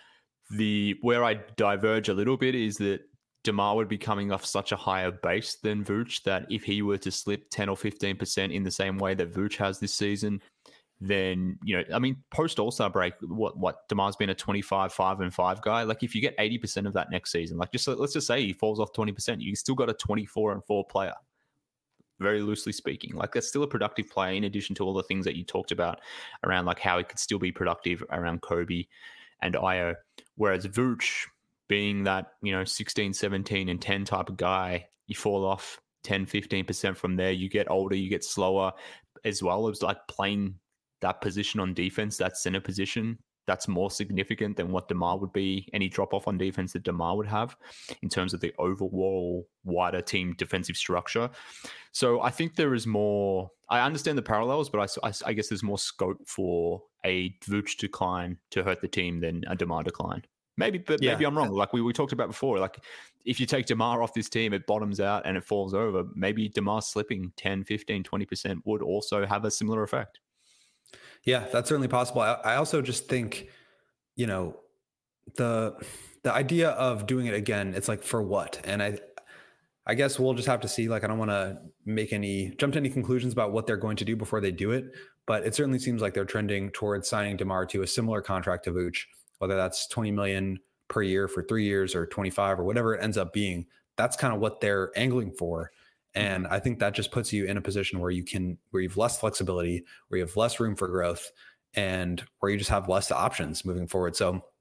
The where I diverge a little bit is that DeMar would be coming off such a higher base than Vooch that if he were to slip ten or fifteen percent in the same way that Vooch has this season, then, you know, I mean, post All-Star break, what, what DeMar's been a twenty-five, five and five guy. Like if you get eighty percent of that next season, like just let's just say he falls off twenty percent, you still got a twenty-four and four player, very loosely speaking. Like that's still a productive player in addition to all the things that you talked about around like how he could still be productive around Kobe and Ayo. Whereas Vooch being that, you know, sixteen, seventeen and ten type of guy, you fall off ten, fifteen percent from there. You get older, you get slower as well as like playing that position on defense, that center position, that's more significant than what DeMar would be, any drop off on defense that DeMar would have in terms of the overall wider team defensive structure. So I think there is more, I understand the parallels, but I, I, I guess there's more scope for a Vooch decline to hurt the team than a DeMar decline. Maybe, but yeah. maybe I'm wrong. Like we, we talked about before, like if you take DeMar off this team, it bottoms out and it falls over. Maybe DeMar slipping ten, fifteen, twenty percent would also have a similar effect. Yeah, that's certainly possible. I, I also just think, you know, the the idea of doing it again, it's like for what? And I I guess we'll just have to see. Like, I don't want to make any jump to any conclusions about what they're going to do before they do it. But it certainly seems like they're trending towards signing DeMar to a similar contract to Vooch, whether that's twenty million per year for three years or twenty-five or whatever it ends up being. That's kind of what they're angling for. And I think that just puts you in a position where you can, where you have less flexibility, where you have less room for growth, and where you just have less options moving forward. So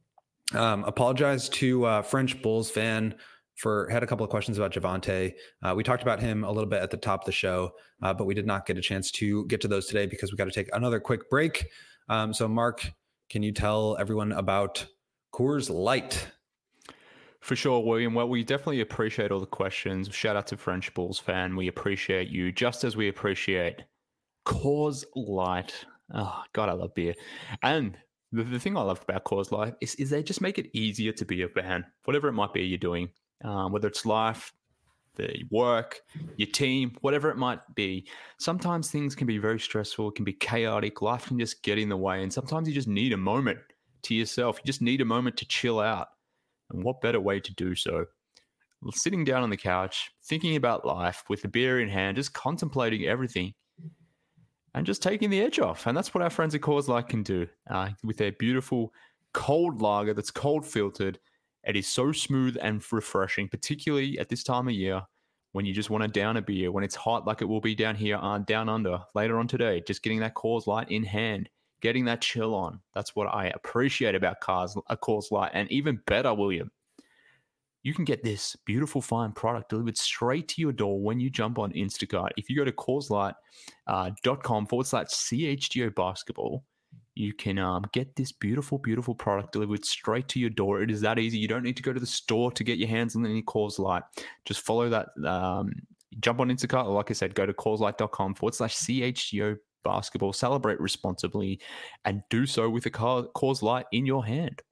Um, apologize to uh, French Bulls fan for had a couple of questions about Javonte. Uh, we talked about him a little bit at the top of the show, uh, but we did not get a chance to get to those today because we got to take another quick break. Um, so, Mark, can you tell everyone about Coors Light? For sure, William. Well, we definitely appreciate all the questions. Shout out to French Bulls fan. We appreciate you just as we appreciate Coors Light. Oh, God, I love beer. And the, the thing I love about Coors Light is, is they just make it easier to be a fan, whatever it might be you're doing, um, whether it's life, the work, your team, whatever it might be. Sometimes things can be very stressful. It can be chaotic. Life can just get in the way. And sometimes you just need a moment to yourself. You just need a moment to chill out. And what better way to do so? Sitting down on the couch, thinking about life with a beer in hand, just contemplating everything and just taking the edge off. And that's what our friends at Coors Light can do uh, with their beautiful cold lager that's cold filtered. It is so smooth and refreshing, particularly at this time of year when you just want to down a beer, when it's hot like it will be down here, uh, down under later on today, just getting that Coors Light in hand. Getting that chill on. That's what I appreciate about cars, a Coors Light. And even better, William, you can get this beautiful fine product delivered straight to your door when you jump on Instacart. If you go to CoorsLight dot com forward slash C H G O basketball, you can um, get this beautiful, beautiful product delivered straight to your door. It is that easy. You don't need to go to the store to get your hands on any Coors Light. Just follow that. Um, jump on Instacart. Or like I said, go to CoorsLight dot com forward slash C H G O basketball, celebrate responsibly, and do so with a Coors Light in your hand.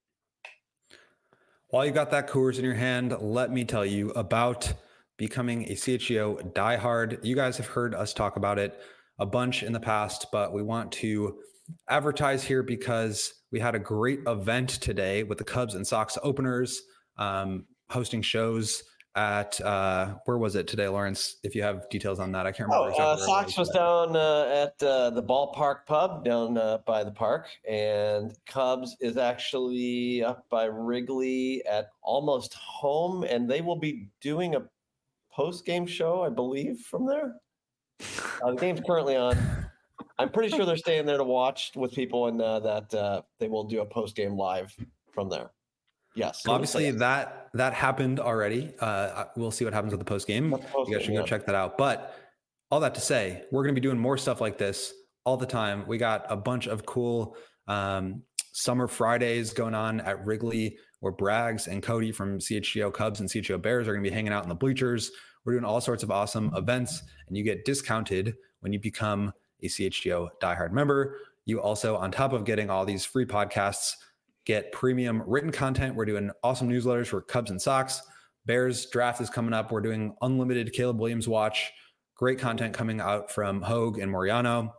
While you got that Coors in your hand, let me tell you about becoming a C H G O diehard. You guys have heard us talk about it a bunch in the past, but we want to advertise here because we had a great event today with the Cubs and Sox openers, um, hosting shows at uh where was it today, Lawrence? If you have details on that, I can't remember. Oh, exactly uh, Sox was, was down uh, at uh, the ballpark pub down uh, by the park, and Cubs is actually up by Wrigley at almost home, and they will be doing a post-game show, I believe, from there. Uh, the game's currently on. I'm pretty sure they're staying there to watch with people, and uh, that uh, they will do a post-game live from there. Yes. Obviously, that that happened already. Uh, we'll see what happens with the post game. You guys should go yeah. check that out. But all that to say, we're going to be doing more stuff like this all the time. We got a bunch of cool um, summer Fridays going on at Wrigley, where Braggs and Cody from C H G O Cubs and C H G O Bears are going to be hanging out in the bleachers. We're doing all sorts of awesome events, and you get discounted when you become a C H G O diehard member. You also, on top of getting all these free podcasts, get premium written content. We're doing awesome newsletters for Cubs and Sox. Bears draft is coming up. We're doing unlimited Caleb Williams watch. Great content coming out from Hogue and Moriano.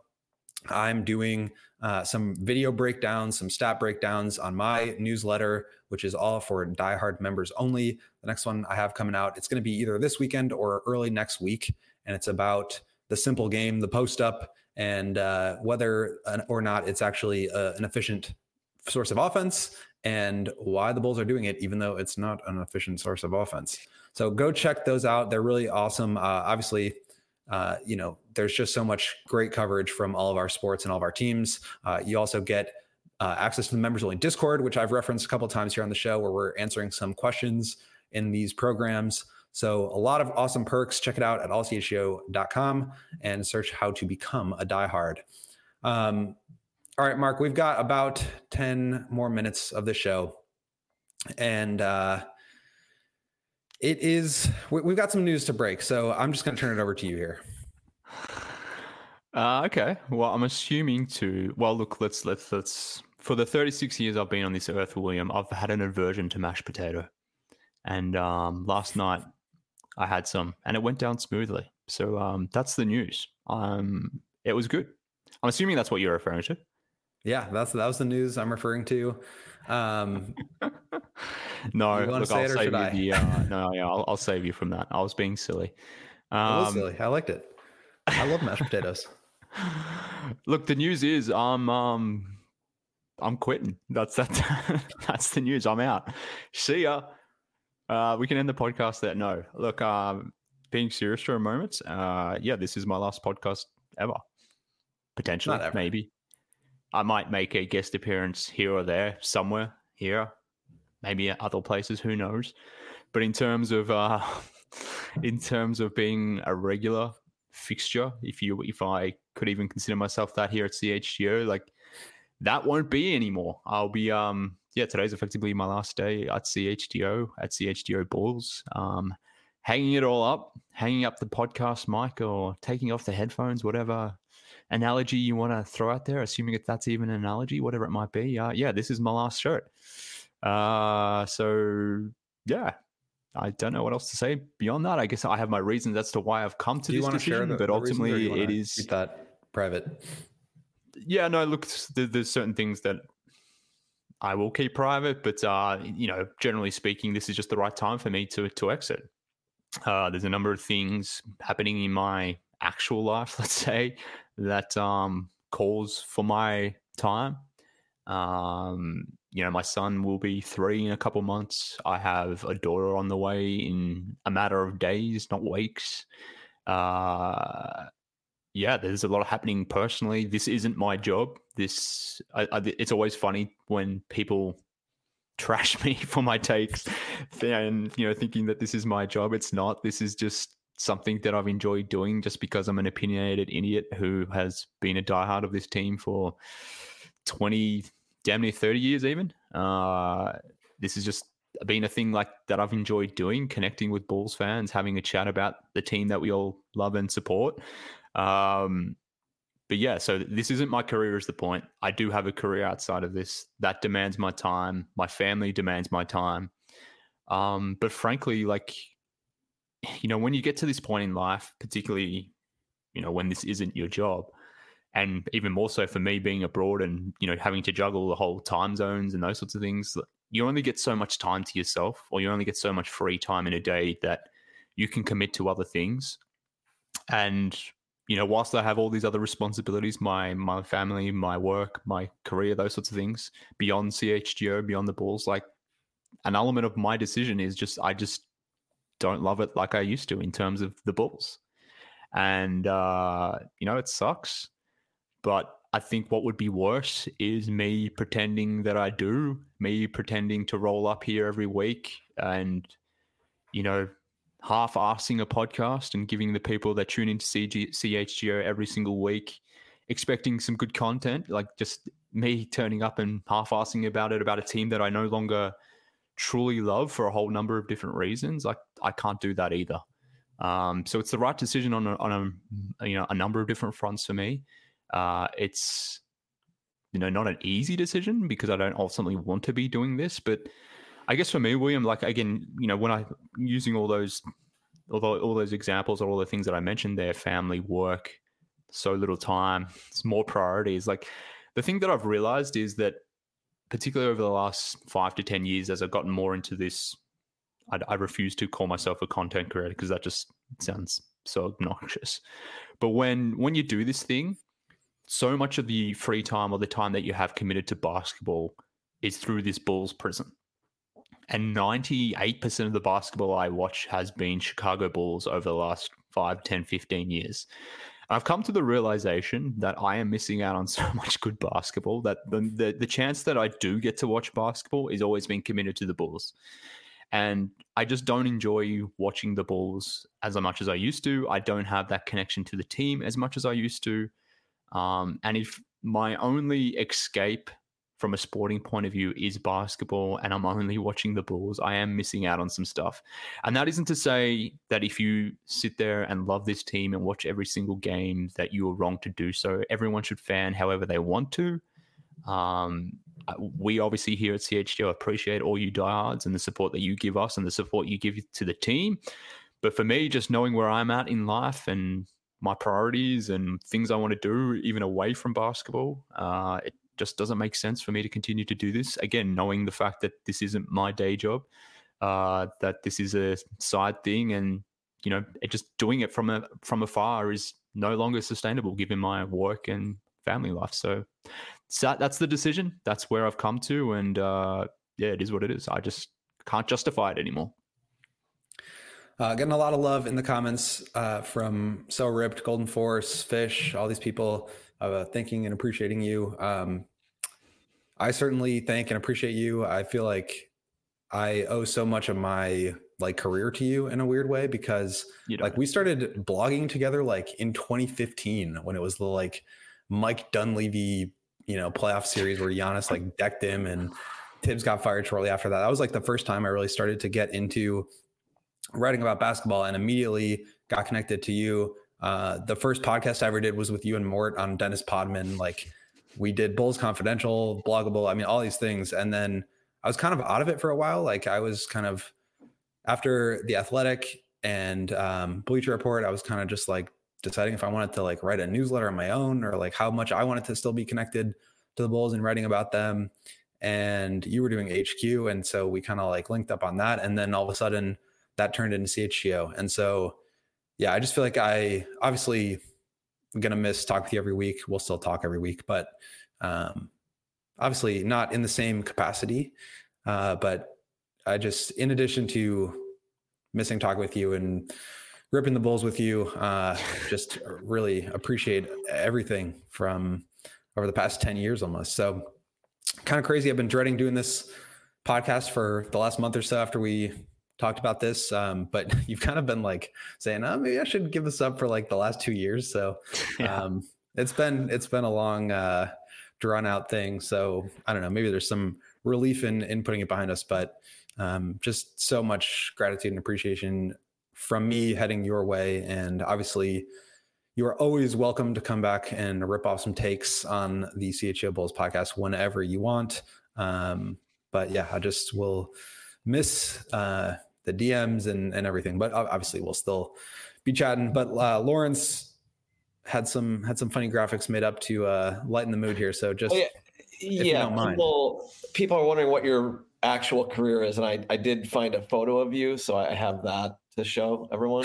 I'm doing uh, some video breakdowns, some stat breakdowns on my newsletter, which is all for diehard members only. The next one I have coming out, it's going to be either this weekend or early next week. And it's about the simple game, the post up, and uh, whether or not it's actually uh, an efficient source of offense and why the Bulls are doing it, even though it's not an efficient source of offense. So go check those out. They're really awesome. Uh, obviously, uh, you know, there's just so much great coverage from all of our sports and all of our teams. Uh, you also get uh, access to the members only Discord, which I've referenced a couple of times here on the show, where we're answering some questions in these programs. So a lot of awesome perks. Check it out at all c h g o dot com and search how to become a diehard. Um, All right, Mark, we've got about ten more minutes of the show. And uh, it is, we, we've got some news to break. So I'm just going to turn it over to you here. Uh, okay. Well, I'm assuming to, well, look, let's, let's, let's, for the thirty-six years I've been on this earth, William, I've had an aversion to mashed potato. And um, last night I had some and it went down smoothly. So um, that's the news. Um, it was good. I'm assuming that's what you're referring to. Yeah, that's that was the news I'm referring to. Um, no, look, I'll save you I? the. Uh, no, yeah, I'll, I'll save you from that. I was being silly. Um, I was silly. I liked it. I love mashed potatoes. Look, the news is I'm um I'm quitting. That's that. That's the news. I'm out. See ya. Uh, we can end the podcast there. No, look. Um, being serious for a moment. Uh, yeah, this is my last podcast ever. Potentially, maybe. I might make a guest appearance here or there, somewhere here. maybe at other places, who knows? But in terms of uh, in terms of being a regular fixture, if you if I could even consider myself that here at C H G O, like that won't be anymore. I'll be um yeah, today's effectively my last day at C H G O at C H G O Bulls. Um, hanging it all up, hanging up the podcast mic or taking off the headphones, whatever analogy you want to throw out there, assuming that that's even an analogy, whatever it might be. Uh, yeah, this is my last shirt. Uh, so yeah, I don't know what else to say beyond that. I guess I have my reasons as to why I've come to this decision, the, but the ultimately it is keep that private. Yeah, no, look, there's certain things that I will keep private, but uh, you know, generally speaking, this is just the right time for me to to exit. Uh, there's a number of things happening in my actual life, let's say, that um, calls for my time. Um, you know, my son will be three in a couple months. I have a daughter on the way in a matter of days, not weeks. Uh, yeah, there's a lot happening personally. This isn't my job. This, I, I, it's always funny when people trash me for my takes and, you know, thinking that this is my job. It's not. This is just something that I've enjoyed doing just because I'm an opinionated idiot who has been a diehard of this team for twenty, damn near thirty years even. Uh, this has just been a thing like that I've enjoyed doing, connecting with Bulls fans, having a chat about the team that we all love and support. Um, but yeah, so this isn't my career is the point. I do have a career outside of this that demands my time. My family demands my time. Um, but frankly, like, you know, when you get to this point in life, particularly, you know, when this isn't your job, and even more so for me being abroad and, you know, having to juggle the whole time zones and those sorts of things, you only get so much time to yourself, or you only get so much free time in a day that you can commit to other things. And, you know, whilst I have all these other responsibilities, my my family, my work, my career, those sorts of things, beyond C H G O, beyond the Bulls, like an element of my decision is just, I just don't love it like I used to in terms of the Bulls. And, uh, you know, it sucks. But I think what would be worse is me pretending that I do, me pretending to roll up here every week and, you know, half-assing a podcast and giving the people that tune into C G- C H G O every single week, expecting some good content, like just me turning up and half-assing about it, about a team that I no longer truly love for a whole number of different reasons. Like, I can't do that either. Um, so it's the right decision on a, on a, you know, a number of different fronts for me. Uh, it's, you know, not an easy decision because I don't ultimately want to be doing this, but I guess for me, William, like, again, you know, when I'm using all those, although all those examples or all the things that I mentioned there, family, work, so little time, it's more priorities. Like, the thing that I've realized is that particularly over the last five to ten years, as I've gotten more into this, I, I refuse to call myself a content creator because that just sounds so obnoxious. But when when you do this thing, so much of the free time or the time that you have committed to basketball is through this Bulls prism. And ninety-eight percent of the basketball I watch has been Chicago Bulls over the last five, ten, fifteen years. I've come to the realization that I am missing out on so much good basketball that the, the, the chance that I do get to watch basketball is always being committed to the Bulls. And I just don't enjoy watching the Bulls as much as I used to. I don't have that connection to the team as much as I used to. Um, and if my only escape from a sporting point of view is basketball and I'm only watching the Bulls, I am missing out on some stuff. And that isn't to say that if you sit there and love this team and watch every single game that you are wrong to do so. Everyone should fan however they want to. Um, we obviously here at C H G O appreciate all you diehards and the support that you give us and the support you give to the team. But for me, just knowing where I'm at in life and my priorities and things I want to do, even away from basketball, uh, it just doesn't make sense for me to continue to do this. Again, knowing the fact that this isn't my day job, uh, that this is a side thing, and you know, it just doing it from a from afar is no longer sustainable given my work and family life. So, so that's the decision. That's where I've come to, and uh, yeah, it is what it is. I just can't justify it anymore. Uh, getting a lot of love in the comments uh, from So Ripped, Golden Force, Fish, all these people uh, thanking and appreciating you. Um, I certainly thank and appreciate you. I feel like I owe so much of my like career to you in a weird way, because You know, like we started blogging together like in twenty fifteen when it was the like Mike Dunleavy, you know, playoff series where Giannis like decked him and Tibbs got fired shortly after that. That was like the first time I really started to get into writing about basketball, and immediately got connected to you. Uh, the first podcast I ever did was with you and Mort on Dennis Podman. Like we did Bulls Confidential, Bloggable, I mean, all these things. And then I was kind of out of it for a while. Like I was kind of after The Athletic and um, Bleacher Report, I was kind of just like deciding if I wanted to like write a newsletter on my own, or like how much I wanted to still be connected to the Bulls and writing about them. And you were doing H Q. And so we kind of like linked up on that. And then all of a sudden that turned into C H G O. And so, yeah, I just feel like I obviously I'm going to miss talk with you every week. We'll still talk every week, but um, obviously not in the same capacity. Uh, but I just, in addition to missing talk with you and ripping the Bulls with you, uh, just really appreciate everything from over the past ten years almost. So kind of crazy. I've been dreading doing this podcast for the last month or so after we talked about this. Um, but you've kind of been like saying, oh, maybe I should give this up for like the last two years. So Yeah. um, it's been, it's been a long uh, drawn out thing. So I don't know, maybe there's some relief in, in putting it behind us, but um, just so much gratitude and appreciation from me heading your way. And obviously you are always welcome to come back and rip off some takes on the C H G O Bulls podcast whenever you want. Um, but yeah, I just will miss uh, the D Ms and, and everything, but obviously we'll still be chatting. But uh, Lawrence had some had some funny graphics made up to uh, lighten the mood here. So just Oh, yeah, if you yeah. don't mind. People people are wondering what your actual career is, and I I did find a photo of you, so I have that to show everyone.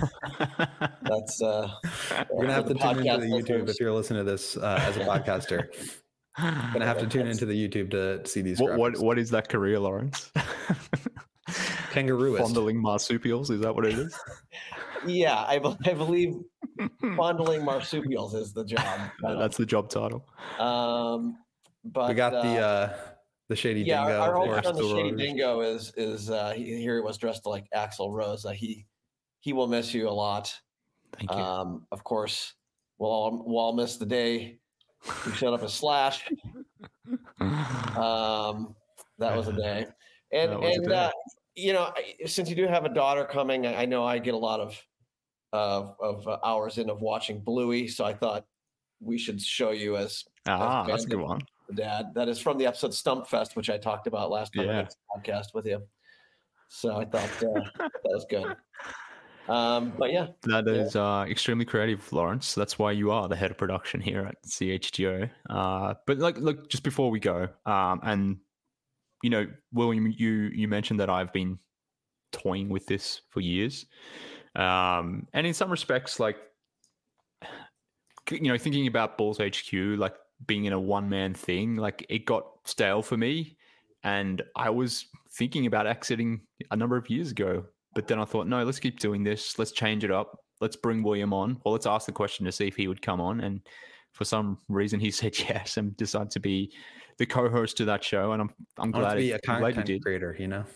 That's uh, You're gonna have to tune into the YouTube listeners. if you're listening to this uh, as a podcaster. You're gonna have to tune into the YouTube to see these. what, what graphics. what is that career, Lawrence? Kangarooist. Fondling marsupials, is that what it is? Yeah, I, be- I believe fondling marsupials is the job. Uh, That's the job title. Um, but We got uh, the uh, the shady yeah, dingo. our, our of old course. friend, the Axl Shady Rose. Dingo, is is uh, he, here. He was dressed like Axl Rose. Uh, he he will miss you a lot. Thank you. Um, of course, we'll all, we'll all miss the day you showed up as Slash. Um, that was a day, and That was a and day. uh, you know, I- since you do have a daughter coming, I I know I get a lot of of of uh, hours in of watching Bluey, so I thought we should show you as ah, as that's a good Bandit, one. the dad. That is from the episode Stump Fest, which I talked about last time I Yeah. did this podcast with you. So I thought uh, that was good. Um, but yeah, That Yeah. is uh, extremely creative, Lawrence. That's why you are the head of production here at C H G O. Uh, but like, look, just before we go, um, and you know, William, you you mentioned that I've been toying with this for years, um, and in some respects, like, you know, thinking about Bulls H Q, like being in a one man thing, like it got stale for me, and I was thinking about exiting a number of years ago. But then I thought, no, let's keep doing this. Let's change it up. Let's bring William on. Well, let's ask the question to see if he would come on. And for some reason, he said yes and decided to be the co-host to that show. And I'm I'm I want glad, to be it, a I'm glad you content did. creator, you know.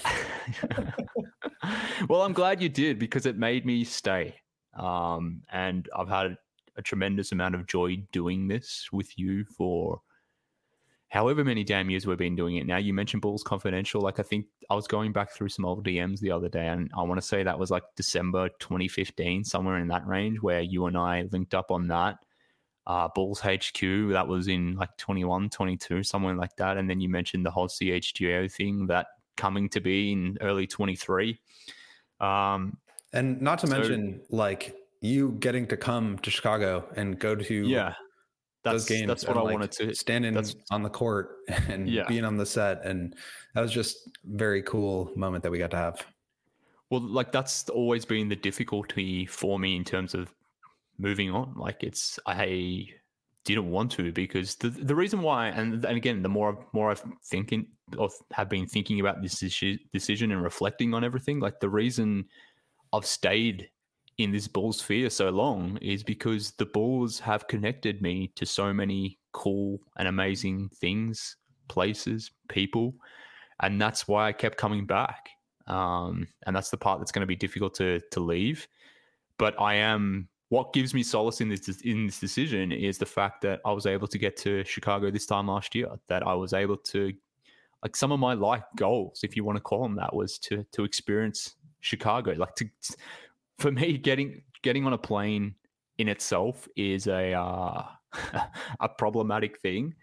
Well, I'm glad you did because it made me stay. Um, and I've had a tremendous amount of joy doing this with you for however many damn years we've been doing it now. You mentioned Bulls Confidential. Like, I think I was going back through some old D Ms the other day, and I want to say that was like December twenty fifteen, somewhere in that range, where you and I linked up on that. Uh, Bulls H Q, that was in like twenty-one, twenty-two, somewhere like that. And then you mentioned the whole C H G O thing, that coming to be in early twenty-three. Um, And not to So- mention, like you getting to come to Chicago and go to yeah, those that's, games. that's what and, I like, wanted to. standing that's- on the court and Yeah. being on the set, and that was just a very cool moment that we got to have. Well, like that's always been the difficulty for me in terms of moving on. Like it's I didn't want to because the the reason why, and and again, the more more I've thinking or have been thinking about this deci- decision and reflecting on everything, like the reason I've stayed in this Bulls sphere so long is because the Bulls have connected me to so many cool and amazing things, places, people. And that's why I kept coming back. Um, and that's the part that's going to be difficult to to leave. But I am, what gives me solace in this in this decision is the fact that I was able to get to Chicago this time last year, that I was able to, like some of my life goals, if you want to call them that, was to to experience Chicago. Like to, for me, getting getting on a plane in itself is a uh, a problematic thing.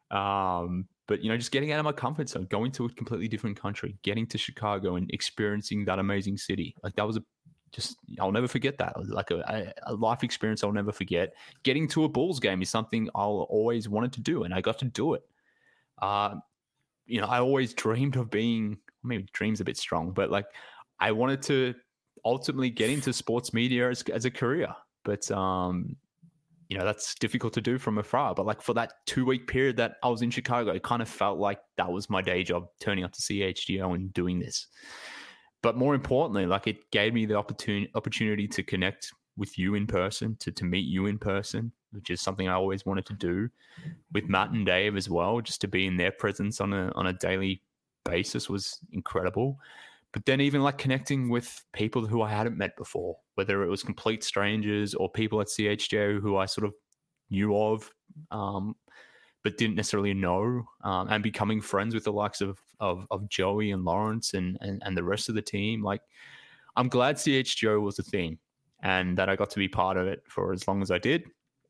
Um, but, you know, just getting out of my comfort zone, going to a completely different country, getting to Chicago and experiencing that amazing city. Like that was a, just, I'll never forget that. It was like a, a life experience I'll never forget. Getting to a Bulls game is something I'll always wanted to do, and I got to do it. Uh, you know, I always dreamed of being, maybe dream's a bit strong, but like I wanted to ultimately get into sports media as, as a career. But, um, you know, that's difficult to do from afar. But like for that two week period that I was in Chicago, it kind of felt like that was my day job, turning up to C H G O and doing this. But more importantly, like it gave me the opportunity opportunity to connect with you in person, to, to meet you in person, which is something I always wanted to do, with Matt and Dave as well. Just to be in their presence on a on a daily basis was incredible. But then even like connecting with people who I hadn't met before, whether it was complete strangers or people at C H G O who I sort of knew of, um, but didn't necessarily know, um, and becoming friends with the likes of of, of Joey and Lawrence and, and and the rest of the team. Like, I'm glad C H G O was a thing and that I got to be part of it for as long as I did.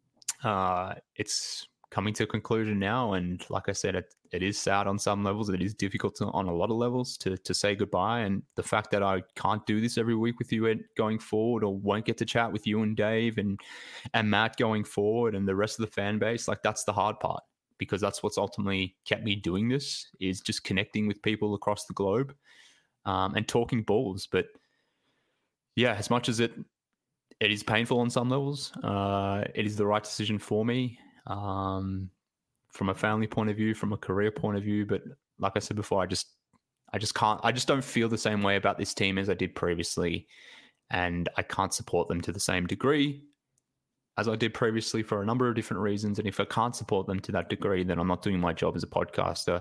Uh, it's coming to a conclusion now, and like I said, it, it is sad on some levels. It is difficult to, on a lot of levels to to say goodbye, and the fact that I can't do this every week with you going forward, or won't get to chat with you and Dave and and Matt going forward, and the rest of the fan base, like that's the hard part, because that's what's ultimately kept me doing this, is just connecting with people across the globe, um, and talking Bulls. But yeah, as much as it it is painful on some levels, uh, it is the right decision for me. Um, from a family point of view, from a career point of view. But like I said before, I just, I just can't, I just don't feel the same way about this team as I did previously. And I can't support them to the same degree as I did previously for a number of different reasons. And if I can't support them to that degree, then I'm not doing my job as a podcaster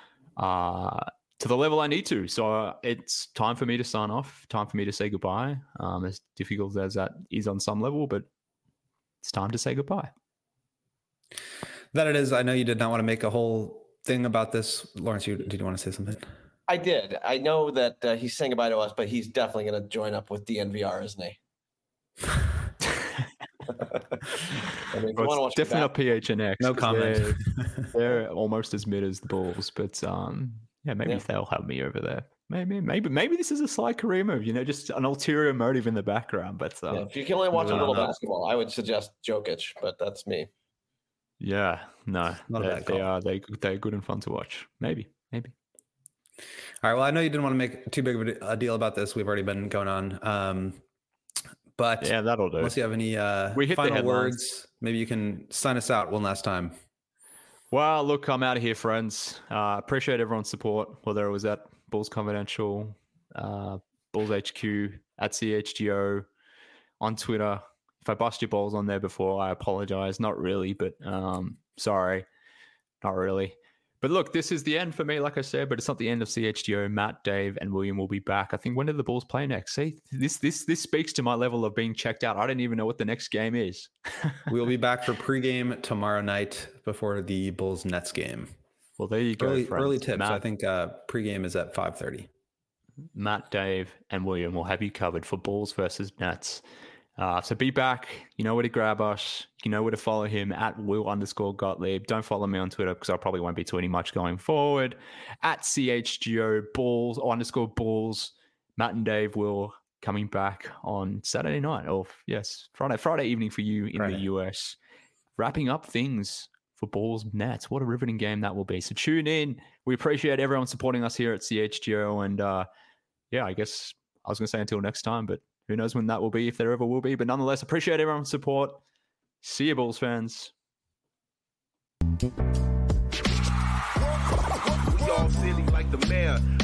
uh, to the level I need to. So uh, it's time for me to sign off, time for me to say goodbye. Um, as difficult as that is on some level, but it's time to say goodbye. That it is. I know you did not want to make a whole thing about this. Lawrence, you, did you want to say something? I did. I know that uh, he's saying goodbye to us, but he's definitely going to join up with D N V R, isn't he? I mean, well, it's definitely not P H N X. No comment. They're, they're almost as mid as the Bulls, but um, yeah, maybe yeah. they'll have me over there. Maybe, maybe, maybe this is a sly career move. You know, just an ulterior motive in the background. But uh, yeah, if you can only watch a little know. basketball, I would suggest Jokic, but that's me. Yeah, no, they, they are they they're good and fun to watch. Maybe, maybe. All right. Well, I know you didn't want to make too big of a deal about this. We've already been going on, um, but yeah, that'll do. Unless you have any uh, we hit final words, maybe you can sign us out one last time. Well, look, I'm out of here, friends. Uh, appreciate everyone's support, whether it was at Bulls Confidential, uh, Bulls H Q, at C H G O, on Twitter. If I bust your balls on there before, I apologize. Not really, but um, sorry. Not really. But look, this is the end for me, like I said, but it's not the end of C H G O. Matt, Dave, and William will be back. I think, when do the Bulls play next? See, this this this speaks to my level of being checked out. I don't even know what the next game is. We'll be back for pregame tomorrow night before the Bulls Nets game. Well, there you go, Early, friends. early tips. Matt, I think uh, pregame is at five thirty. Matt, Dave, and William will have you covered for Bulls versus Nets. Uh, so be back. You know where to grab us. You know where to follow him at Will underscore Gottlieb. Don't follow me on Twitter because I probably won't be tweeting much going forward. At C H G O Bulls or underscore Bulls. Matt and Dave will coming back on Saturday night, or yes, Friday, Friday evening for you in Friday. The U S. Wrapping up things for Bulls Nets. What a riveting game that will be. So tune in. We appreciate everyone supporting us here at C H G O. And uh, yeah, I guess I was going to say until next time, but who knows when that will be, if there ever will be. But nonetheless, appreciate everyone's support. See you, Bulls fans. We all silly like the mayor.